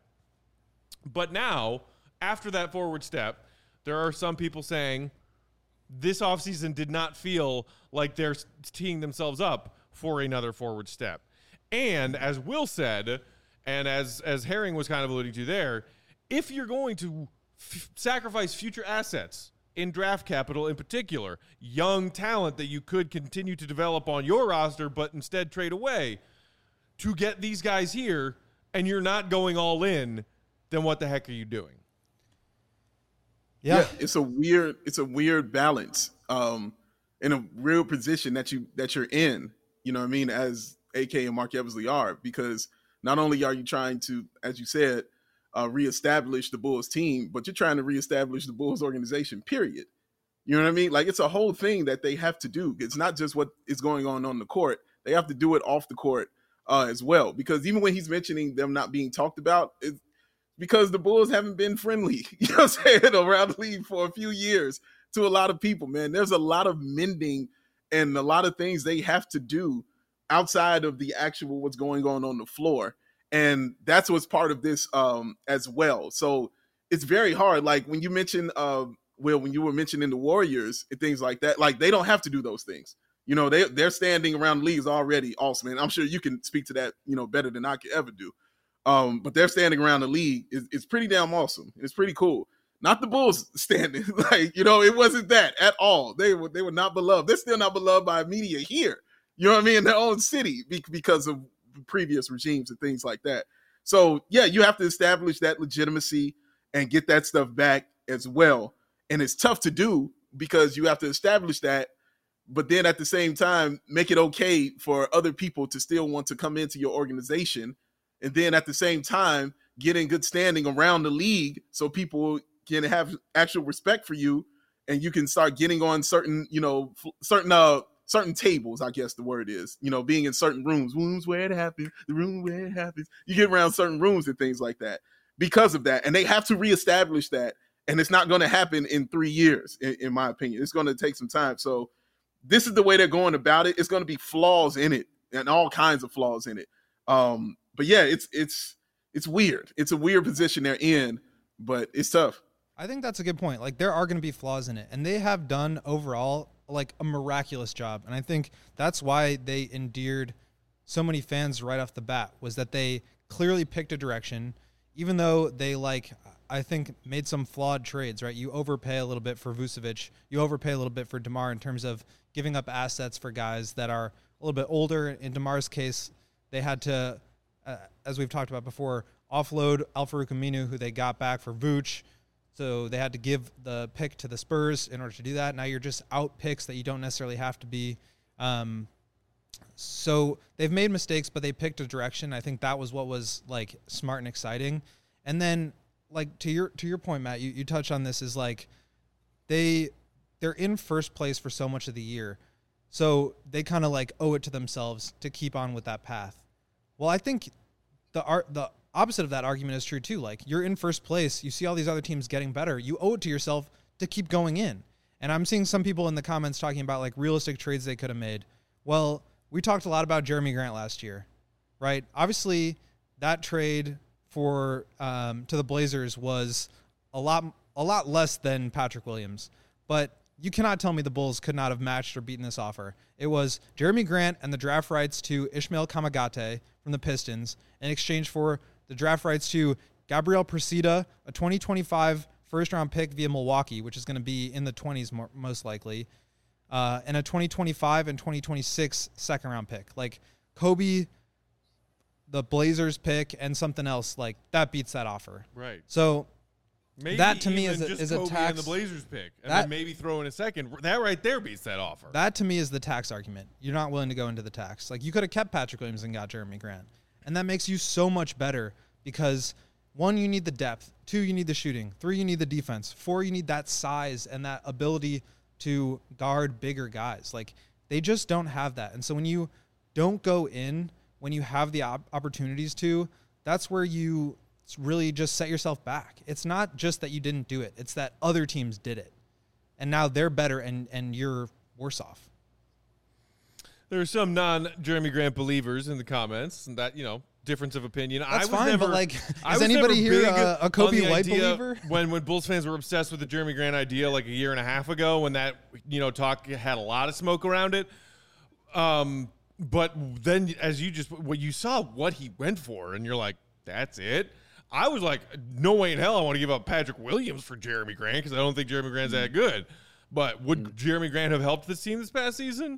But now, after that forward step, there are some people saying this offseason did not feel like they're teeing themselves up for another forward step. And as Will said, and as, as Herring was kind of alluding to there, if you're going to f- sacrifice future assets in draft capital, in particular, young talent that you could continue to develop on your roster, but instead trade away to get these guys here, and you're not going all in, then what the heck are you doing? Yeah. it's a weird it's a weird balance um in a real position that you that you're in, you know what I mean, as A K and Mark Eversley are, because not only are you trying to, as you said, uh reestablish the Bulls team, but you're trying to reestablish the Bulls organization, period. You know what I mean? Like, it's a whole thing that they have to do. It's not just what is going on on the court. They have to do it off the court uh as well, because even when he's mentioning them not being talked about, it's because the Bulls haven't been friendly, you know what I'm saying, around the league for a few years to a lot of people, man. There's a lot of mending and a lot of things they have to do outside of the actual what's going on on the floor. And that's what's part of this um, as well. So it's very hard. Like when you mentioned, uh, Will, when you were mentioning the Warriors and things like that, like they don't have to do those things. You know, they, they're standing around the leagues already awesome. And I'm sure you can speak to that, you know, better than I could ever do. Um, but they're standing around the league. It's, it's pretty damn awesome. It's pretty cool. Not the Bulls standing. Like, you know, it wasn't that at all. They were they were not beloved. They're still not beloved by media here. You know what I mean? In their own city because of previous regimes and things like that. So, yeah, you have to establish that legitimacy and get that stuff back as well. And it's tough to do because you have to establish that but then at the same time, make it okay for other people to still want to come into your organization. And then at the same time, get in good standing around the league so people can have actual respect for you, and you can start getting on certain, you know, certain, uh, certain tables, I guess the word is, you know, being in certain rooms, rooms where it happens, the room where it happens. You get around certain rooms and things like that because of that. And they have to reestablish that. And it's not going to happen in three years, in, in my opinion. It's going to take some time. So this is the way they're going about it. It's going to be flaws in it and all kinds of flaws in it. Um, but yeah, it's, it's, it's weird. It's a weird position they're in, but it's tough. I think that's a good point. Like, there are going to be flaws in it, and they have done overall like a miraculous job. And I think that's why they endeared so many fans right off the bat, was that they clearly picked a direction, even though they like, I think, made some flawed trades, right? You overpay a little bit for Vucevic. You overpay a little bit for DeMar in terms of giving up assets for guys that are a little bit older. In DeMar's case, they had to, uh, as we've talked about before, offload Al-Farouq Aminu, who they got back for Vooch. So they had to give the pick to the Spurs in order to do that. Now you're just out picks that you don't necessarily have to be. Um, so they've made mistakes, but they picked a direction. I think that was what was like smart and exciting. And then, like, to your to your point, Matt, you, you touched on this, is like they they're in first place for so much of the year. So they kind of like owe it to themselves to keep on with that path. Well, I think the art the opposite of that argument is true too. Like, you're in first place, you see all these other teams getting better, you owe it to yourself to keep going in. And I'm seeing some people in the comments talking about like realistic trades they could have made. Well, we talked a lot about Jeremy Grant last year, right? Obviously, that trade for um, to the Blazers was a lot a lot less than Patrick Williams, but you cannot tell me the Bulls could not have matched or beaten this offer. It was Jeremy Grant and the draft rights to Ishmael Kamagate from the Pistons in exchange for the draft rights to Gabriel Presida, a twenty twenty-five first-round pick via Milwaukee, which is going to be in the twenties more, most likely, uh, and a twenty twenty-five and twenty twenty-six second-round pick. Like, Kobe, the Blazers pick, and something else, like, that beats that offer. Right. So maybe that to me is a, just is a Kobe tax. and the Blazers pick, and that, then maybe throw in a second. That right there beats that offer. That to me is the tax argument. You're not willing to go into the tax. Like, you could have kept Patrick Williams and got Jeremy Grant, and that makes you so much better because, one, you need the depth. Two, you need the shooting. Three, you need the defense. Four, you need that size and that ability to guard bigger guys. Like, they just don't have that. And so when you don't go in, when you have the op- opportunities to, that's where you really just set yourself back. It's not just that you didn't do it. It's that other teams did it. And now they're better and, and you're worse off. There are some non-Jeremy Grant believers in the comments, and that, you know, difference of opinion. That's I was fine, never, but like, I is was anybody never here big a, a on Kobe the White idea believer? When when Bulls fans were obsessed with the Jeremy Grant idea like a year and a half ago, when that, you know, talk had a lot of smoke around it. Um, but then, as you just, what you saw what he went for, and you're like, that's it. I was like, no way in hell I want to give up Patrick Williams for Jeremy Grant because I don't think Jeremy Grant's that good. But would mm. Jeremy Grant have helped this team this past season?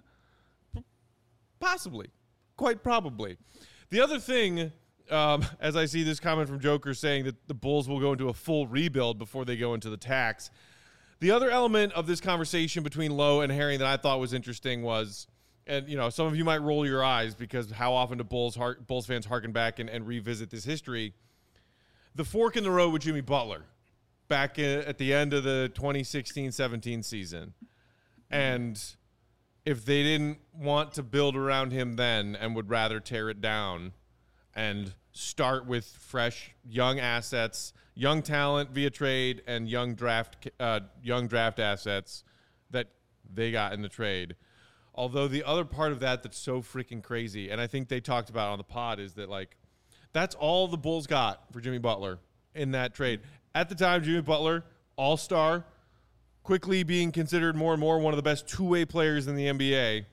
Possibly. Quite probably. The other thing, um, as I see this comment from Joker saying that the Bulls will go into a full rebuild before they go into the tax. The other element of this conversation between Lowe and Herring that I thought was interesting was, and, you know, some of you might roll your eyes because how often do Bulls, heart, Bulls fans harken back and, and revisit this history. The fork in the road with Jimmy Butler back at the end of the twenty sixteen seventeen season. And if they didn't want to build around him then and would rather tear it down and start with fresh young assets, young talent via trade, and young draft uh, young draft assets that they got in the trade. Although the other part of that that's so freaking crazy, and I think they talked about on the pod, is that, like, that's all the Bulls got for Jimmy Butler in that trade. At the time, Jimmy Butler, all-star, quickly being considered more and more one of the best two-way players in the N B A.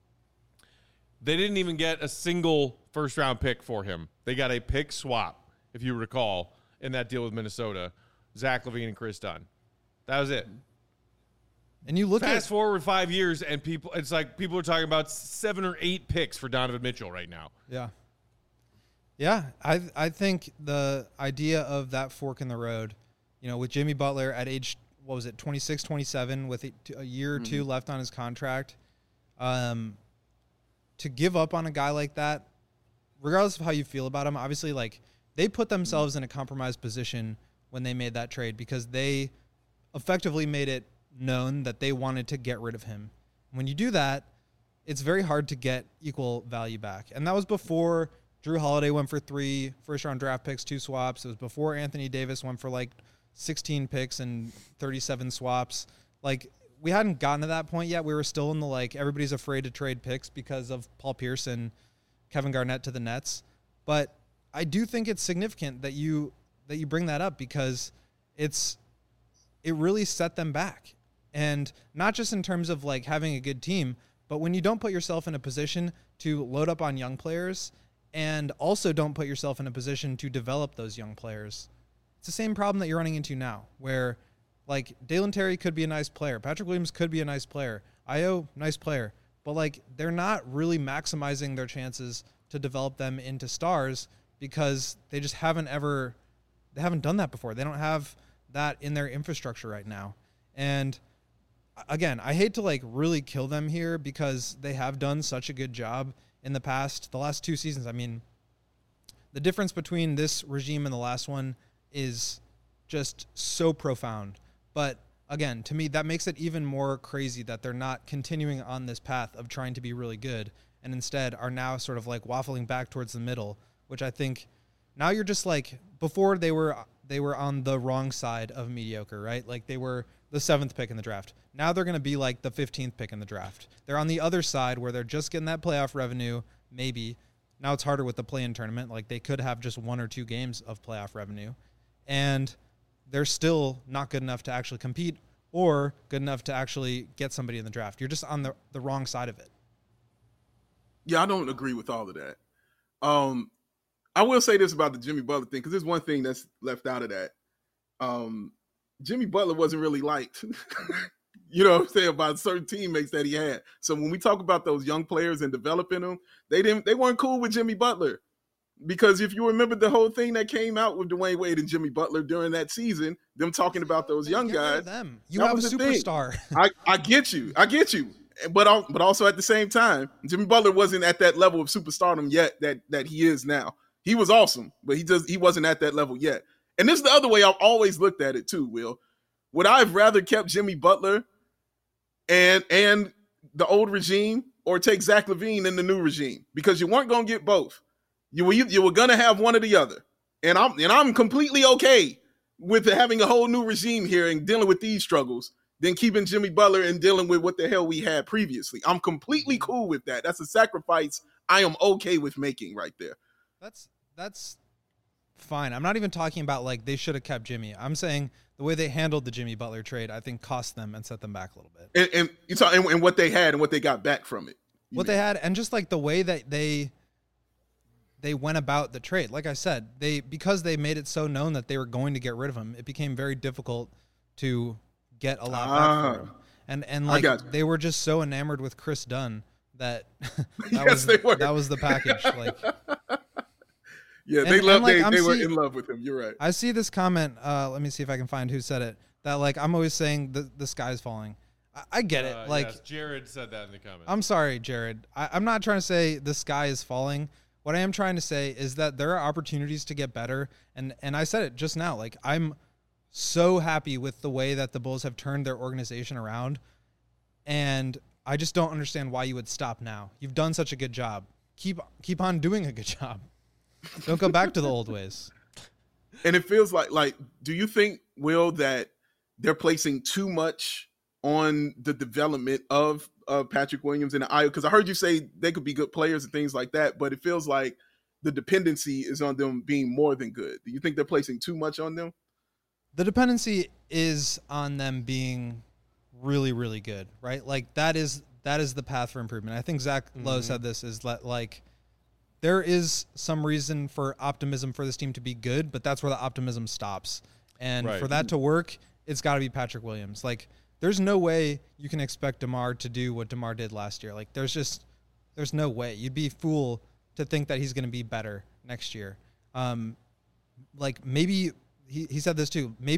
They didn't even get a single first-round pick for him. They got a pick swap, if you recall, in that deal with Minnesota. Zach LaVine and Chris Dunn. That was it. And you look Fast at Fast forward five years, and people it's like people are talking about seven or eight picks for Donovan Mitchell right now. Yeah. Yeah, I I think the idea of that fork in the road, you know, with Jimmy Butler at age, what was it, twenty-six, twenty-seven, with a, a year or two mm-hmm. left on his contract, Um, to give up on a guy like that, regardless of how you feel about him, obviously, like, they put themselves in a compromised position when they made that trade because they effectively made it known that they wanted to get rid of him. When you do that, it's very hard to get equal value back. And that was before Drew Holiday went for three first-round draft picks, two swaps. It was before Anthony Davis went for, like, sixteen picks and thirty-seven swaps. Like, we hadn't gotten to that point yet. We were still in the, like, everybody's afraid to trade picks because of Paul Pierce and Kevin Garnett to the Nets. But I do think it's significant that you that you bring that up because it's it really set them back. And not just in terms of, like, having a good team, but when you don't put yourself in a position to load up on young players and also don't put yourself in a position to develop those young players, it's the same problem that you're running into now where, like, Dalen Terry could be a nice player. Patrick Williams could be a nice player. Io, nice player. But, like, they're not really maximizing their chances to develop them into stars because they just haven't ever – they haven't done that before. They don't have that in their infrastructure right now. And – again, I hate to, like, really kill them here because they have done such a good job in the past, the last two seasons. I mean, the difference between this regime and the last one is just so profound. But again, to me, that makes it even more crazy that they're not continuing on this path of trying to be really good and instead are now sort of, like, waffling back towards the middle, which I think now you're just, like, before they were they were on the wrong side of mediocre, right? Like, they were the seventh pick in the draft. Now they're going to be like the fifteenth pick in the draft. They're on the other side where they're just getting that playoff revenue, maybe. Now it's harder with the play-in tournament. Like, they could have just one or two games of playoff revenue. And they're still not good enough to actually compete or good enough to actually get somebody in the draft. You're just on the, the wrong side of it. Yeah, I don't agree with all of that. Um, I will say this about the Jimmy Butler thing, because there's one thing that's left out of that. Um, Jimmy Butler wasn't really liked, you know what I'm saying, by certain teammates that he had. So when we talk about those young players and developing them, they didn't, they weren't cool with Jimmy Butler. Because if you remember the whole thing that came out with Dwayne Wade and Jimmy Butler during that season, them talking about those young guys. Them. You have a superstar. I, I get you. I get you. But but also at the same time, Jimmy Butler wasn't at that level of superstardom yet that that he is now. He was awesome, but he just he wasn't at that level yet. And this is the other way I've always looked at it too, Will. Would I have rather kept Jimmy Butler and and the old regime or take Zach LaVine in the new regime? Because you weren't going to get both. You were you were going to have one or the other. And I'm and I'm completely okay with having a whole new regime here and dealing with these struggles than keeping Jimmy Butler and dealing with what the hell we had previously. I'm completely cool with that. That's a sacrifice I am okay with making right there. That's that's fine. I'm not even talking about, like, they should have kept Jimmy. I'm saying the way they handled the Jimmy Butler trade, I think, cost them and set them back a little bit. And and, you talk, and, and what they had and what they got back from it. What mean. they had, and just, like, the way that they they went about the trade. Like I said, they because they made it so known that they were going to get rid of him, it became very difficult to get a lot ah, back for him. And and like they were just so enamored with Chris Dunn that that yes, was they were. that was the package. Like yeah, and, they loved like, they, they see, were in love with him. You're right. I see this comment. Uh, let me see if I can find who said it. That, like, I'm always saying the the sky's falling. I, I get it. Uh, like yes, Jared said that in the comments. I'm sorry, Jared. I, I'm not trying to say the sky is falling. What I am trying to say is that there are opportunities to get better. And, and I said it just now, like, I'm so happy with the way that the Bulls have turned their organization around. And I just don't understand why you would stop now. You've done such a good job. Keep, keep on doing a good job. Don't go back to the old ways. And it feels like, like, do you think, Will, that they're placing too much on the development of uh, Patrick Williams and Io? Because I heard you say they could be good players and things like that, but it feels like the dependency is on them being more than good. Do you think they're placing too much on them? The dependency is on them being really, really good, right? Like, that is that is the path for improvement. I think Zach mm-hmm. Lowe said this, is that, like, there is some reason for optimism for this team to be good, but that's where the optimism stops. And right. for that to work, it's got to be Patrick Williams. Like, there's no way you can expect DeMar to do what DeMar did last year. Like, there's just, there's no way. You'd be a fool to think that he's going to be better next year. Um, like, maybe, he, he said this too, maybe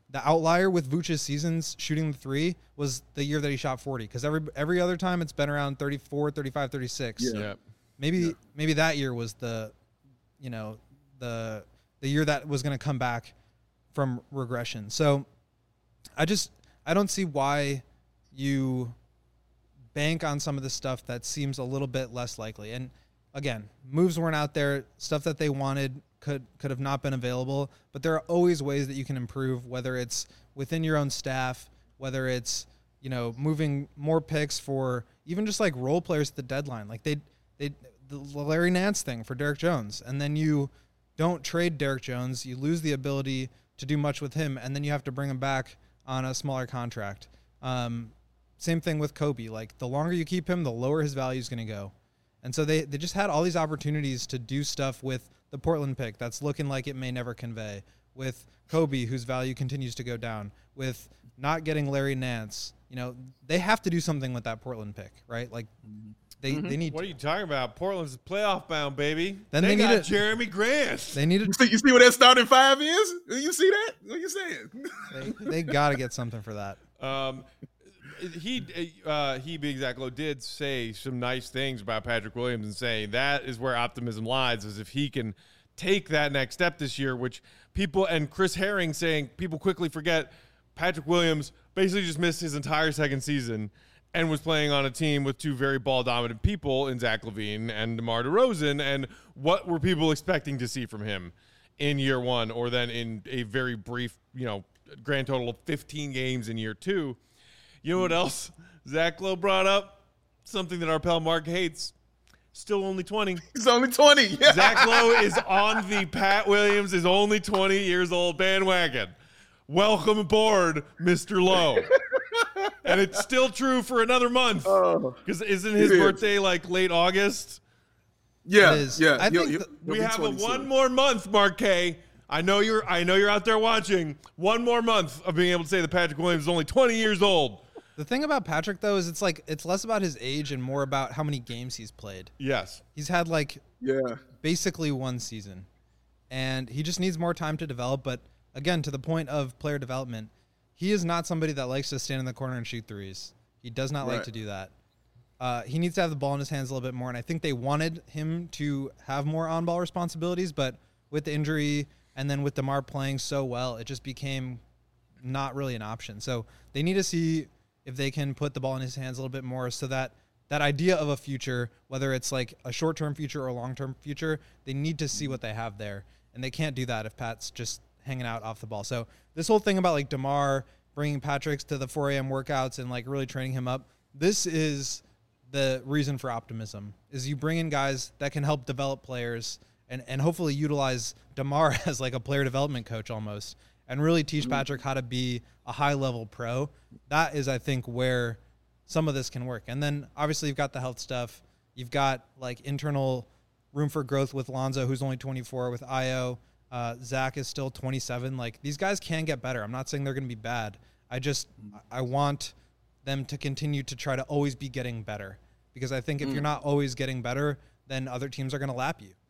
the outlier with Vooch's seasons shooting the three was the year that he shot forty, because every every other time it's been around thirty-four, thirty-five, thirty-six. Yeah. Yeah. Maybe Yeah. maybe that year was the, you know, the the year that was going to come back from regression. So I just I don't see why you bank on some of the stuff that seems a little bit less likely. And again, moves weren't out there, stuff that they wanted could could have not been available, but there are always ways that you can improve, whether it's within your own staff, whether it's, you know, moving more picks for even just like role players at the deadline. Like they they the Larry Nance thing for Derek Jones, and then you don't trade Derek Jones, you lose the ability to do much with him, and then you have to bring him back on a smaller contract. Um, same thing with Kobe. Like the longer you keep him, the lower his value is going to go. And so they, they just had all these opportunities to do stuff with the Portland pick that's looking like it may never convey, with Kobe, whose value continues to go down, with not getting Larry Nance. You know, they have to do something with that Portland pick, right? Like they, Mm-hmm. they need What are you talking about? Portland's playoff bound, baby. Then they, they got need a- Jeremy Grant. they need You to, see, you see what that starting five is? You see that? What you saying? they, they got to get something for that. Um, he uh, he being Zach Lowe did say some nice things about Patrick Williams and saying that is where optimism lies, is if he can take that next step this year, which people and Chris Herring saying people quickly forget Patrick Williams basically just missed his entire second season and was playing on a team with two very ball dominant people in Zach LaVine and DeMar DeRozan. And what were people expecting to see from him in year one, or then in a very brief, you know, grand total of fifteen games in year two? You know what else Zach Lowe brought up? Something that our pal Mark hates. Still only twenty. He's only twenty. Zach Lowe is on the Pat Williams is only twenty years old bandwagon. Welcome aboard, Mister Lowe. And it's still true for another month. Oh, Because isn't his it is. birthday like late August? yeah, It is. yeah. I He'll- think he'll- th- he'll We be have a twenty one soon. more month, Mark K. I know you're I know you're out there watching. One more month of being able to say that Patrick Williams is only twenty years old. The thing about Patrick, though, is it's like it's less about his age and more about how many games he's played. Yes. He's had like Yeah. basically one season, and he just needs more time to develop. But again, to the point of player development, he is not somebody that likes to stand in the corner and shoot threes. He does not like Right. to do that. Uh, he needs to have the ball in his hands a little bit more, and I think they wanted him to have more on-ball responsibilities, but with the injury and then with DeMar playing so well, it just became not really an option. So they need to see if they can put the ball in his hands a little bit more, so that that idea of a future, whether it's like a short-term future or a long-term future, they need to see what they have there. And they can't do that if Pat's just hanging out off the ball. So this whole thing about like DeMar bringing Patrick's to the four a.m. workouts and like really training him up, this is the reason for optimism, is you bring in guys that can help develop players and, and hopefully utilize DeMar as like a player development coach almost, and really teach Patrick how to be a high-level pro. That is, I think, where some of this can work. And then, obviously, you've got the health stuff. You've got, like, internal room for growth with Lonzo, who's only twenty-four, with Io. Uh, Zach is still twenty-seven. Like, these guys can get better. I'm not saying they're going to be bad. I just I want them to continue to try to always be getting better. Because I think if you're not always getting better, then other teams are going to lap you.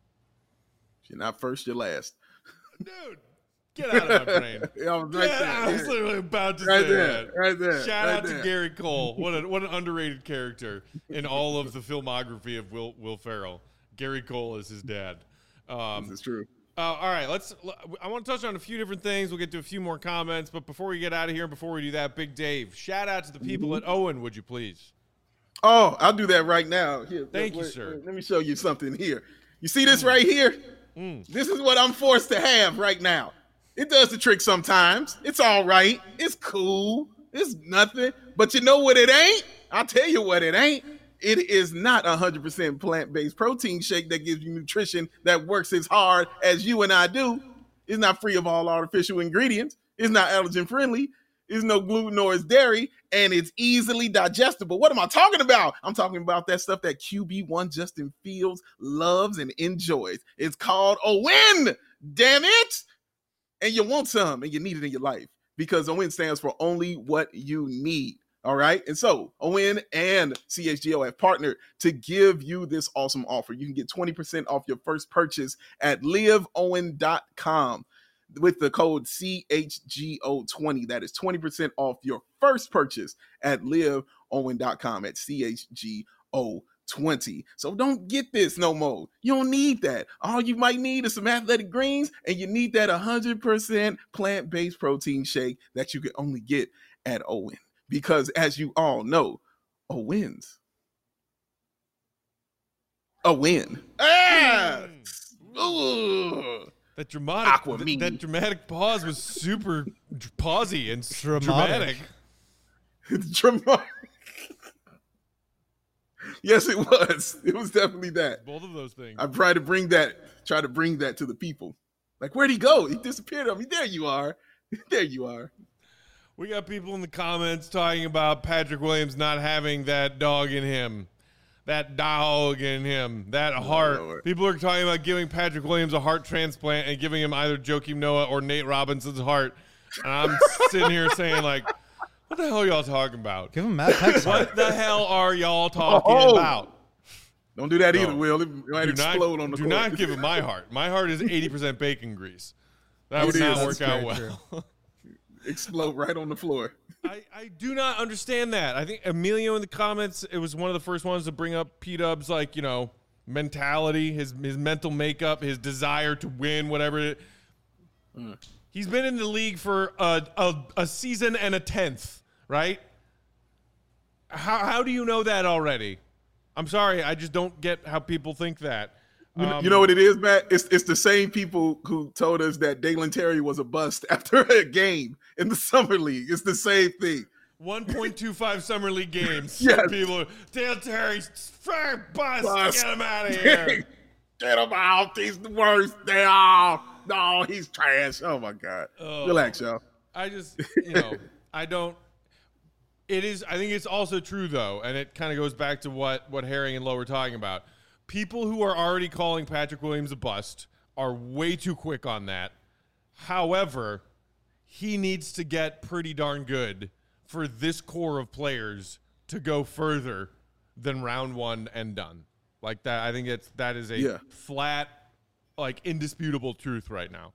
If you're not first, you're last. Dude, get out of my brain. Yeah, I was right Yeah, there. I was literally about to Right say there. that. Right there. Shout right out there. to Gary Cole. What a, what an underrated character in all of the filmography of Will Will Ferrell. Gary Cole is his dad. Um, This is true. uh, all right, let's. I want to touch on a few different things. We'll get to a few more comments, but before we get out of here, before we do that, Big Dave, shout out to the people at Owen, would you please? Oh, I'll do that right now. Here, Thank wait, you, sir. wait, let me show you something here. You see this right here? Mm. This is what I'm forced to have right now. It does the trick sometimes. It's all right. It's cool. It's nothing. But you know what it ain't? I'll tell you what it ain't. It is not a one hundred percent plant-based protein shake that gives you nutrition that works as hard as you and I do. It's not free of all artificial ingredients. It's not allergen-friendly. There's no gluten or it's dairy, and it's easily digestible. What am I talking about? I'm talking about that stuff that Q B one Justin Fields loves and enjoys. It's called a win, damn it. And you want some, and you need it in your life, because O W I N stands for only what you need. All right. And so O W I N and C H G O have partnered to give you this awesome offer. You can get twenty percent off your first purchase at live owen dot com. with the code C H G O twenty. That is twenty percent off your first purchase at live owen dot com at C H G O twenty. So don't get this no more. You don't need that. All you might need is some athletic greens, and you need that one hundred percent plant-based protein shake that you can only get at Owen. Because as you all know, Owens a win. Ah! Ooh. That dramatic, Aqua th- me. that dramatic pause was super dr- pausy and s- Dramatic. dramatic. It's dramatic. Yes, it was. It was definitely that. Both of those things. I tried to bring that, try to bring that to the people. Like, where'd he go? He disappeared on me. There you are. There you are. We got people in the comments talking about Patrick Williams not having that dog in him. That dog in him. That heart. Lord. People are talking about giving Patrick Williams a heart transplant and giving him either Joakim Noah or Nate Robinson's heart. And I'm sitting here saying, like, what the hell are y'all talking about? Give him Matt Peck's heart. What the hell are y'all talking Oh. about? Don't do that No. either, Will. It might Do explode not, on the do court. not give him my heart. My heart is eighty percent bacon grease. That It would is. not That's work out very well. Explode right on the floor. I, I do not understand that. I think Emilio in the comments, it was one of the first ones to bring up P-Dub's, like, you know, mentality, his his mental makeup, his desire to win, whatever it Mm. He's been in the league for a, a, a season and a tenth, right? How, how do you know that already? I'm sorry, I just don't get how people think that. You know, Um, you know what it is, Matt? It's it's the same people who told us that Dalen Terry was a bust after a game in the summer league. It's the same thing. one point two five summer league games. Yes. People, Dale Terry's fair bust. Bust. Get him out of here. Get him out. He's the worst. They are. No, he's trash. Oh my God. Oh. Relax, y'all. I just, you know, I don't. It is. I think it's also true though, and it kind of goes back to what what Herring and Lowe were talking about. People who are already calling Patrick Williams a bust are way too quick on that. However, he needs to get pretty darn good for this core of players to go further than round one and done. Like that, I think it's that is a Yeah. flat, like indisputable truth right now.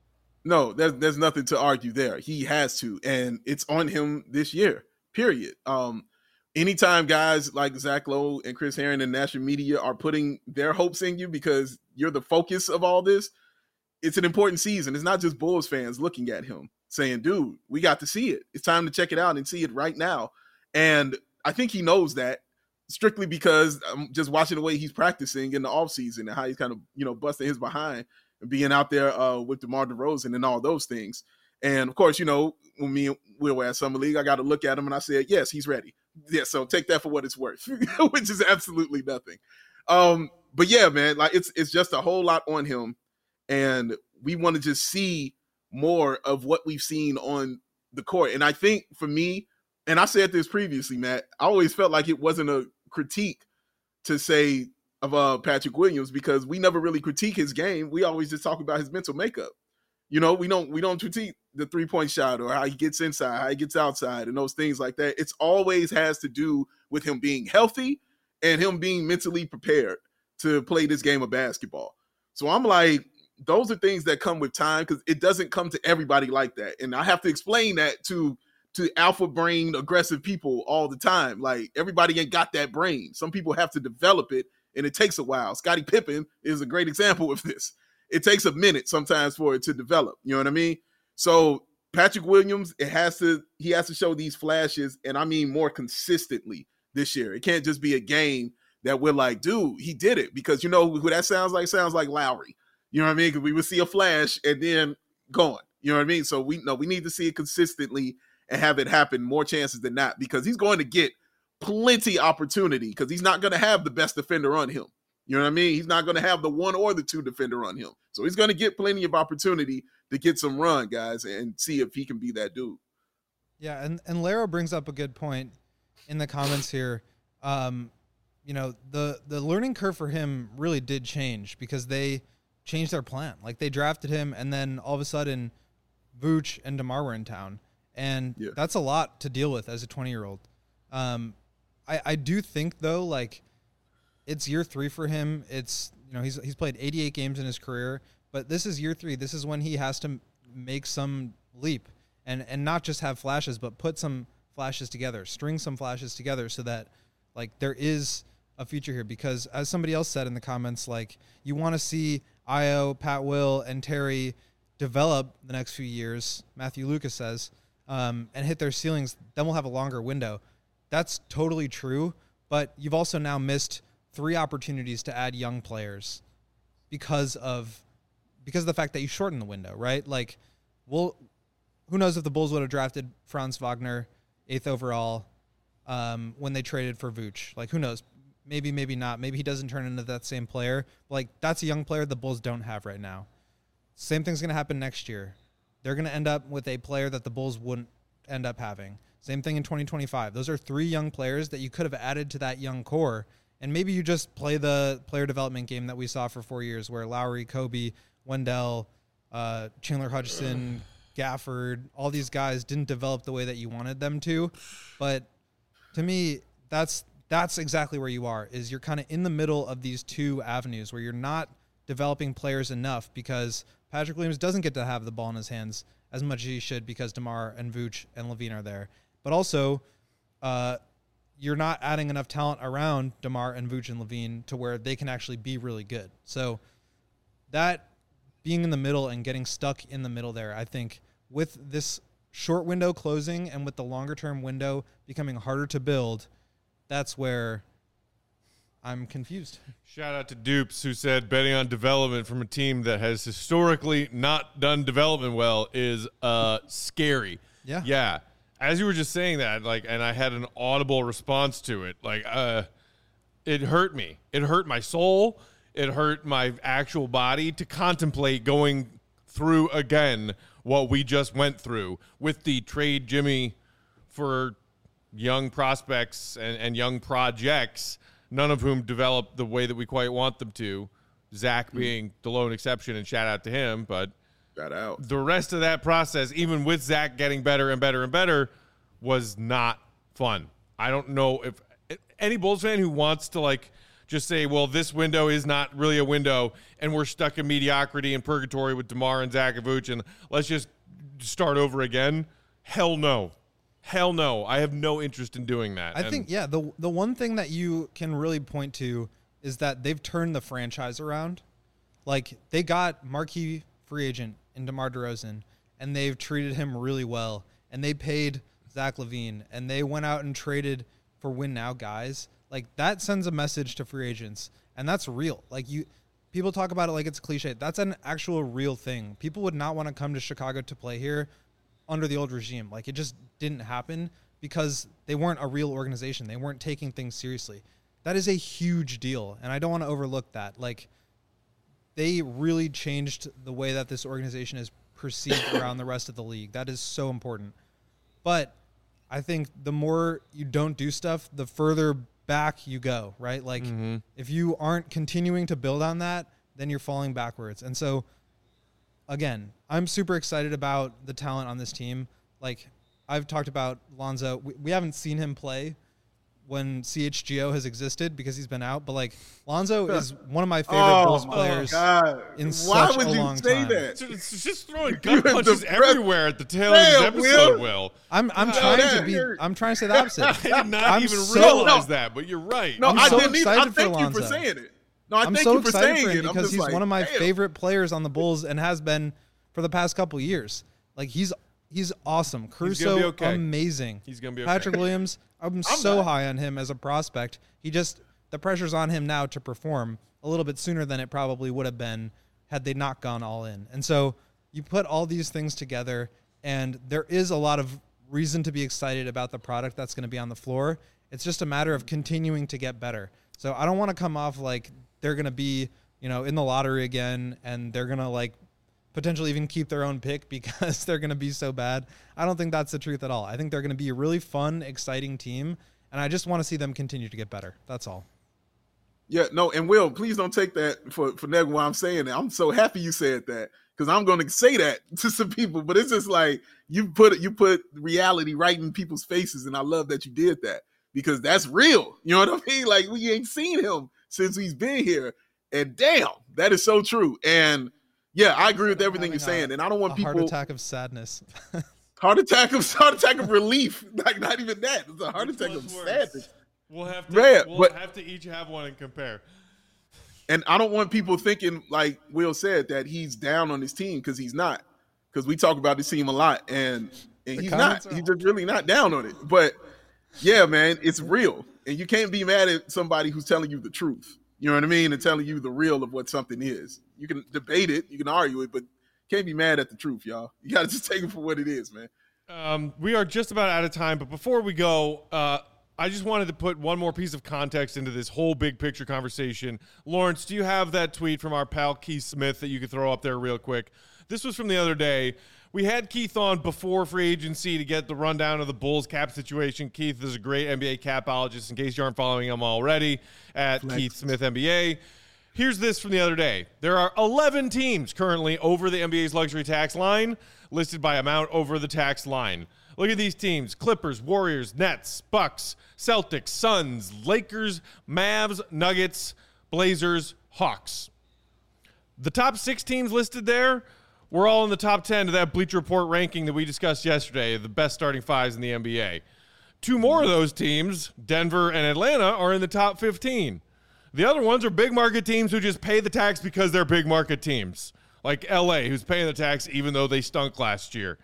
No, there's there's nothing to argue there. He has to, and it's on him this year. Period. Um, anytime guys like Zach Lowe and Chris Herring and national media are putting their hopes in you because you're the focus of all this, it's an important season. It's not just Bulls fans looking at him saying, dude, we got to see it. It's time to check it out and see it right now. And I think he knows that strictly because I'm just watching the way he's practicing in the offseason and how he's kind of, you know, busting his behind and being out there uh, with DeMar DeRozan and all those things. And, of course, you know, when me and Will were at Summer League, I got to look at him and I said, yes, he's ready. Yeah, so take that for what it's worth, which is absolutely nothing. Um, but, yeah, man, like it's it's just a whole lot on him. And we want to just see more of what we've seen on the court. And I think for me, and I said this previously, Matt, I always felt like it wasn't a critique to say of uh, Patrick Williams because we never really critique his game. We always just talk about his mental makeup. You know, we don't we don't critique the three-point shot or how he gets inside, how he gets outside, and those things like that. It's always has to do with him being healthy and him being mentally prepared to play this game of basketball. So I'm like, those are things that come with time because it doesn't come to everybody like that. And I have to explain that to to alpha brain aggressive people all the time. Like everybody ain't got that brain. Some people have to develop it and it takes a while. Scottie Pippen is a great example of this. It takes a minute sometimes for it to develop. You know what I mean? So Patrick Williams, it has to, he has to show these flashes, and I mean more consistently this year. It can't just be a game that we're like, dude, he did it. Because you know who that sounds like? Sounds like Lowry. You know what I mean? Because we would see a flash and then gone. You know what I mean? So we know we need to see it consistently and have it happen more chances than not because he's going to get plenty opportunity because he's not going to have the best defender on him. You know what I mean? He's not going to have the one or the two defender on him. So he's going to get plenty of opportunity to get some run, guys, and see if he can be that dude. Yeah, and, and Lara brings up a good point in the comments here. Um, you know, the, the learning curve for him really did change because they changed their plan. Like, they drafted him, and then all of a sudden, Vooch and DeMar were in town. And Yeah. that's a lot to deal with as a twenty-year-old. Um, I, I do think, though, like, it's year three for him. It's, you know, he's he's played eighty-eight games in his career, but this is year three. This is when he has to make some leap and, and not just have flashes, but put some flashes together, string some flashes together so that like there is a future here. Because as somebody else said in the comments, like you want to see Io, Pat Will, and Terry develop the next few years, Matthew Lucas says, um, and hit their ceilings, then we'll have a longer window. That's totally true, but you've also now missed three opportunities to add young players because of because of the fact that you shortened the window, right? Like, we'll, who knows if the Bulls would have drafted Franz Wagner eighth overall um, when they traded for Vooch. Like, who knows? Maybe, maybe not. Maybe he doesn't turn into that same player. Like, that's a young player the Bulls don't have right now. Same thing's going to happen next year. They're going to end up with a player that the Bulls wouldn't end up having. Same thing in twenty twenty-five. Those are three young players that you could have added to that young core, and maybe you just play the player development game that we saw for four years where Lowry, Kobe, Wendell, uh, Chandler Hutchison, Gafford, all these guys didn't develop the way that you wanted them to. But to me, that's that's exactly where you are, is you're kind of in the middle of these two avenues where you're not developing players enough because Patrick Williams doesn't get to have the ball in his hands as much as he should because DeMar and Vooch and LaVine are there. But also, uh, you're not adding enough talent around DeMar and Vooch and LaVine to where they can actually be really good. So that being in the middle and getting stuck in the middle there, I think with this short window closing and with the longer term window becoming harder to build, that's where I'm confused. Shout out to Dupes, who said betting on development from a team that has historically not done development well is uh, scary. Yeah. Yeah. As you were just saying that, like, and I had an audible response to it. Like, uh, it hurt me. It hurt my soul. It hurt my actual body to contemplate going through again what we just went through with the trade Jimmy for young prospects and, and young projects, none of whom developed the way that we quite want them to. Zach being the lone exception, and shout out to him, but Shout out. the rest of that process, even with Zach getting better and better and better, was not fun. I don't know if any Bulls fan who wants to like just say, well, this window is not really a window and we're stuck in mediocrity and purgatory with DeMar and Zach and Vooch and let's just start over again. Hell no. Hell no. I have no interest in doing that. I and think, yeah, the the one thing that you can really point to is that they've turned the franchise around. Like, they got marquee free agent in DeMar DeRozan, and they've treated him really well. And they paid Zach LaVine, and they went out and traded for win now guys. Like, that sends a message to free agents, and that's real. Like, you, people talk about it like it's a cliche. That's an actual real thing. People would not want to come to Chicago to play here under the old regime. Like, it just didn't happen because they weren't a real organization. They weren't taking things seriously. That is a huge deal, and I don't want to overlook that. Like, they really changed the way that this organization is perceived around the rest of the league. That is so important. But I think the more you don't do stuff, the further back you go, right? Like, mm-hmm. if you aren't continuing to build on that, then you're falling backwards. And so, again, I'm super excited about the talent on this team. Like, I've talked about Lonzo. We, we haven't seen him play when C H G O has existed because he's been out. But, like, Lonzo is one of my favorite oh, Bulls my players God. in Why such would a you long say time. that? It's just throwing gun punches the press- everywhere at the tail of this Damn, episode, Will. Will. I'm I'm No, trying that to be hurt. I'm trying to say the opposite. I did not I'm even so- realize No. that, but you're right. No, I'm I so didn't either. I excited for thank you for Lonzo. saying it. No, I I'm thank so you for excited saying for him it. I'm because just he's like, one of my damn. favorite players on the Bulls and has been for the past couple years. Like, he's he's awesome. Caruso, be okay. amazing. He's gonna be okay. Patrick Williams, I'm, so not. high on him as a prospect. He just the pressure's on him now to perform a little bit sooner than it probably would have been had they not gone all in. And so you put all these things together, and there is a lot of reason to be excited about the product that's going to be on the floor. It's just a matter of continuing to get better. So I don't want to come off like they're going to be, you know, in the lottery again and they're going to like potentially even keep their own pick because they're going to be so bad. I don't think that's the truth at all. I think they're going to be a really fun, exciting team, and I just want to see them continue to get better. That's all. Yeah, no, and Will, please don't take that for, for negative while I'm saying that. I'm so happy you said that because I'm going to say that to some people, but it's just like you put it, you put reality right in people's faces, and I love that you did that because that's real. You know what I mean? Like, we ain't seen him since he's been here, and damn, that is so true. And Yeah, I agree with everything you're saying, a, and I don't want a people heart attack of sadness. heart attack of heart attack of relief. Like not even that. It's a heart Which attack of one's worse? sadness. We'll have to Man, we'll but- have to each have one and compare. And I don't want people thinking, like Will said, that he's down on his team because he's not. Because we talk about this team a lot, and and The he's comments not. are He's just really not down on it. But yeah, man, it's real, and you can't be mad at somebody who's telling you the truth. You know what I mean? And telling you the real of what something is. You can debate it, you can argue it, but can't be mad at the truth, y'all. You got to just take it for what it is, man. Um, we are just about out of time, but before we go, uh, I just wanted to put one more piece of context into this whole big picture conversation. Lawrence, do you have that tweet from our pal Keith Smith that you could throw up there real quick? This was from the other day. We had Keith on before free agency to get the rundown of the Bulls cap situation. Keith is a great N B A capologist, in case you aren't following him already, at Flex. Keith Smith N B A. Here's this from the other day. There are eleven teams currently over the N B A's luxury tax line, listed by amount over the tax line. Look at these teams: Clippers, Warriors, Nets, Bucks, Celtics, Suns, Lakers, Mavs, Nuggets, Blazers, Hawks. The top six teams listed there were all in the top ten of that Bleacher Report ranking that we discussed yesterday, the best starting fives in the N B A. Two more of those teams, Denver and Atlanta, are in the top fifteen. The other ones are big market teams who just pay the tax because they're big market teams, like L A, who's paying the tax even though they stunk last year.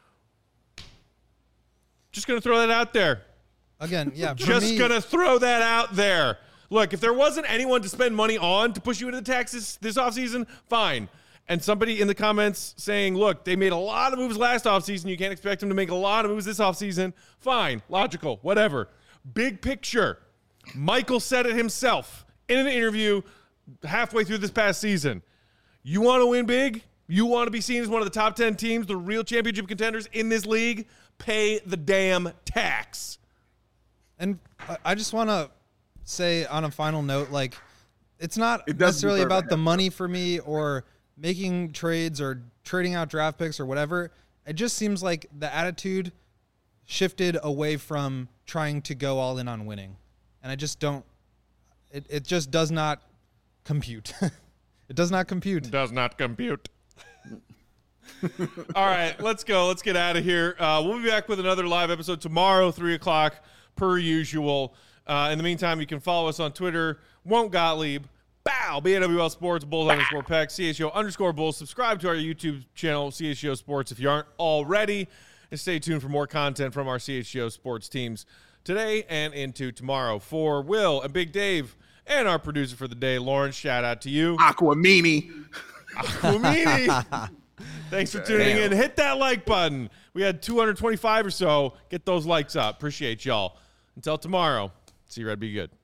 Just going to throw that out there. Again, yeah. For Just me, going to throw that out there. Look, if there wasn't anyone to spend money on to push you into the taxes this offseason, fine. And somebody in the comments saying, look, they made a lot of moves last offseason. You can't expect them to make a lot of moves this offseason. Fine. Logical. Whatever. Big picture. Michael said it himself in an interview halfway through this past season. You want to win big? You want to be seen as one of the top ten teams, the real championship contenders in this league? Pay the damn tax. And I- I just want to say on a final note, like, it's not It doesn't necessarily deserve about a the half. money for me or making trades or trading out draft picks or whatever. It just seems like the attitude shifted away from trying to go all in on winning. And I just don't, it, it just does not compute. It does not compute. Does not compute. All right, let's go. Let's get out of here. Uh, we'll be back with another live episode tomorrow, three o'clock, per usual. Uh, in the meantime, you can follow us on Twitter, Won't Gottlieb, Bow, B A W L Sports, Bulls underscore Peck, C H O underscore Bulls. Subscribe to our YouTube channel, C H O Sports, if you aren't already. And stay tuned for more content from our C H O Sports teams today and into tomorrow. For Will and Big Dave and our producer for the day, Lawrence, shout out to you. Aquamini. Aquamini. Thanks for tuning Damn. in. Hit that like button. We had two hundred twenty-five or so. Get those likes up. Appreciate y'all. Until tomorrow, see you, Red. Be good.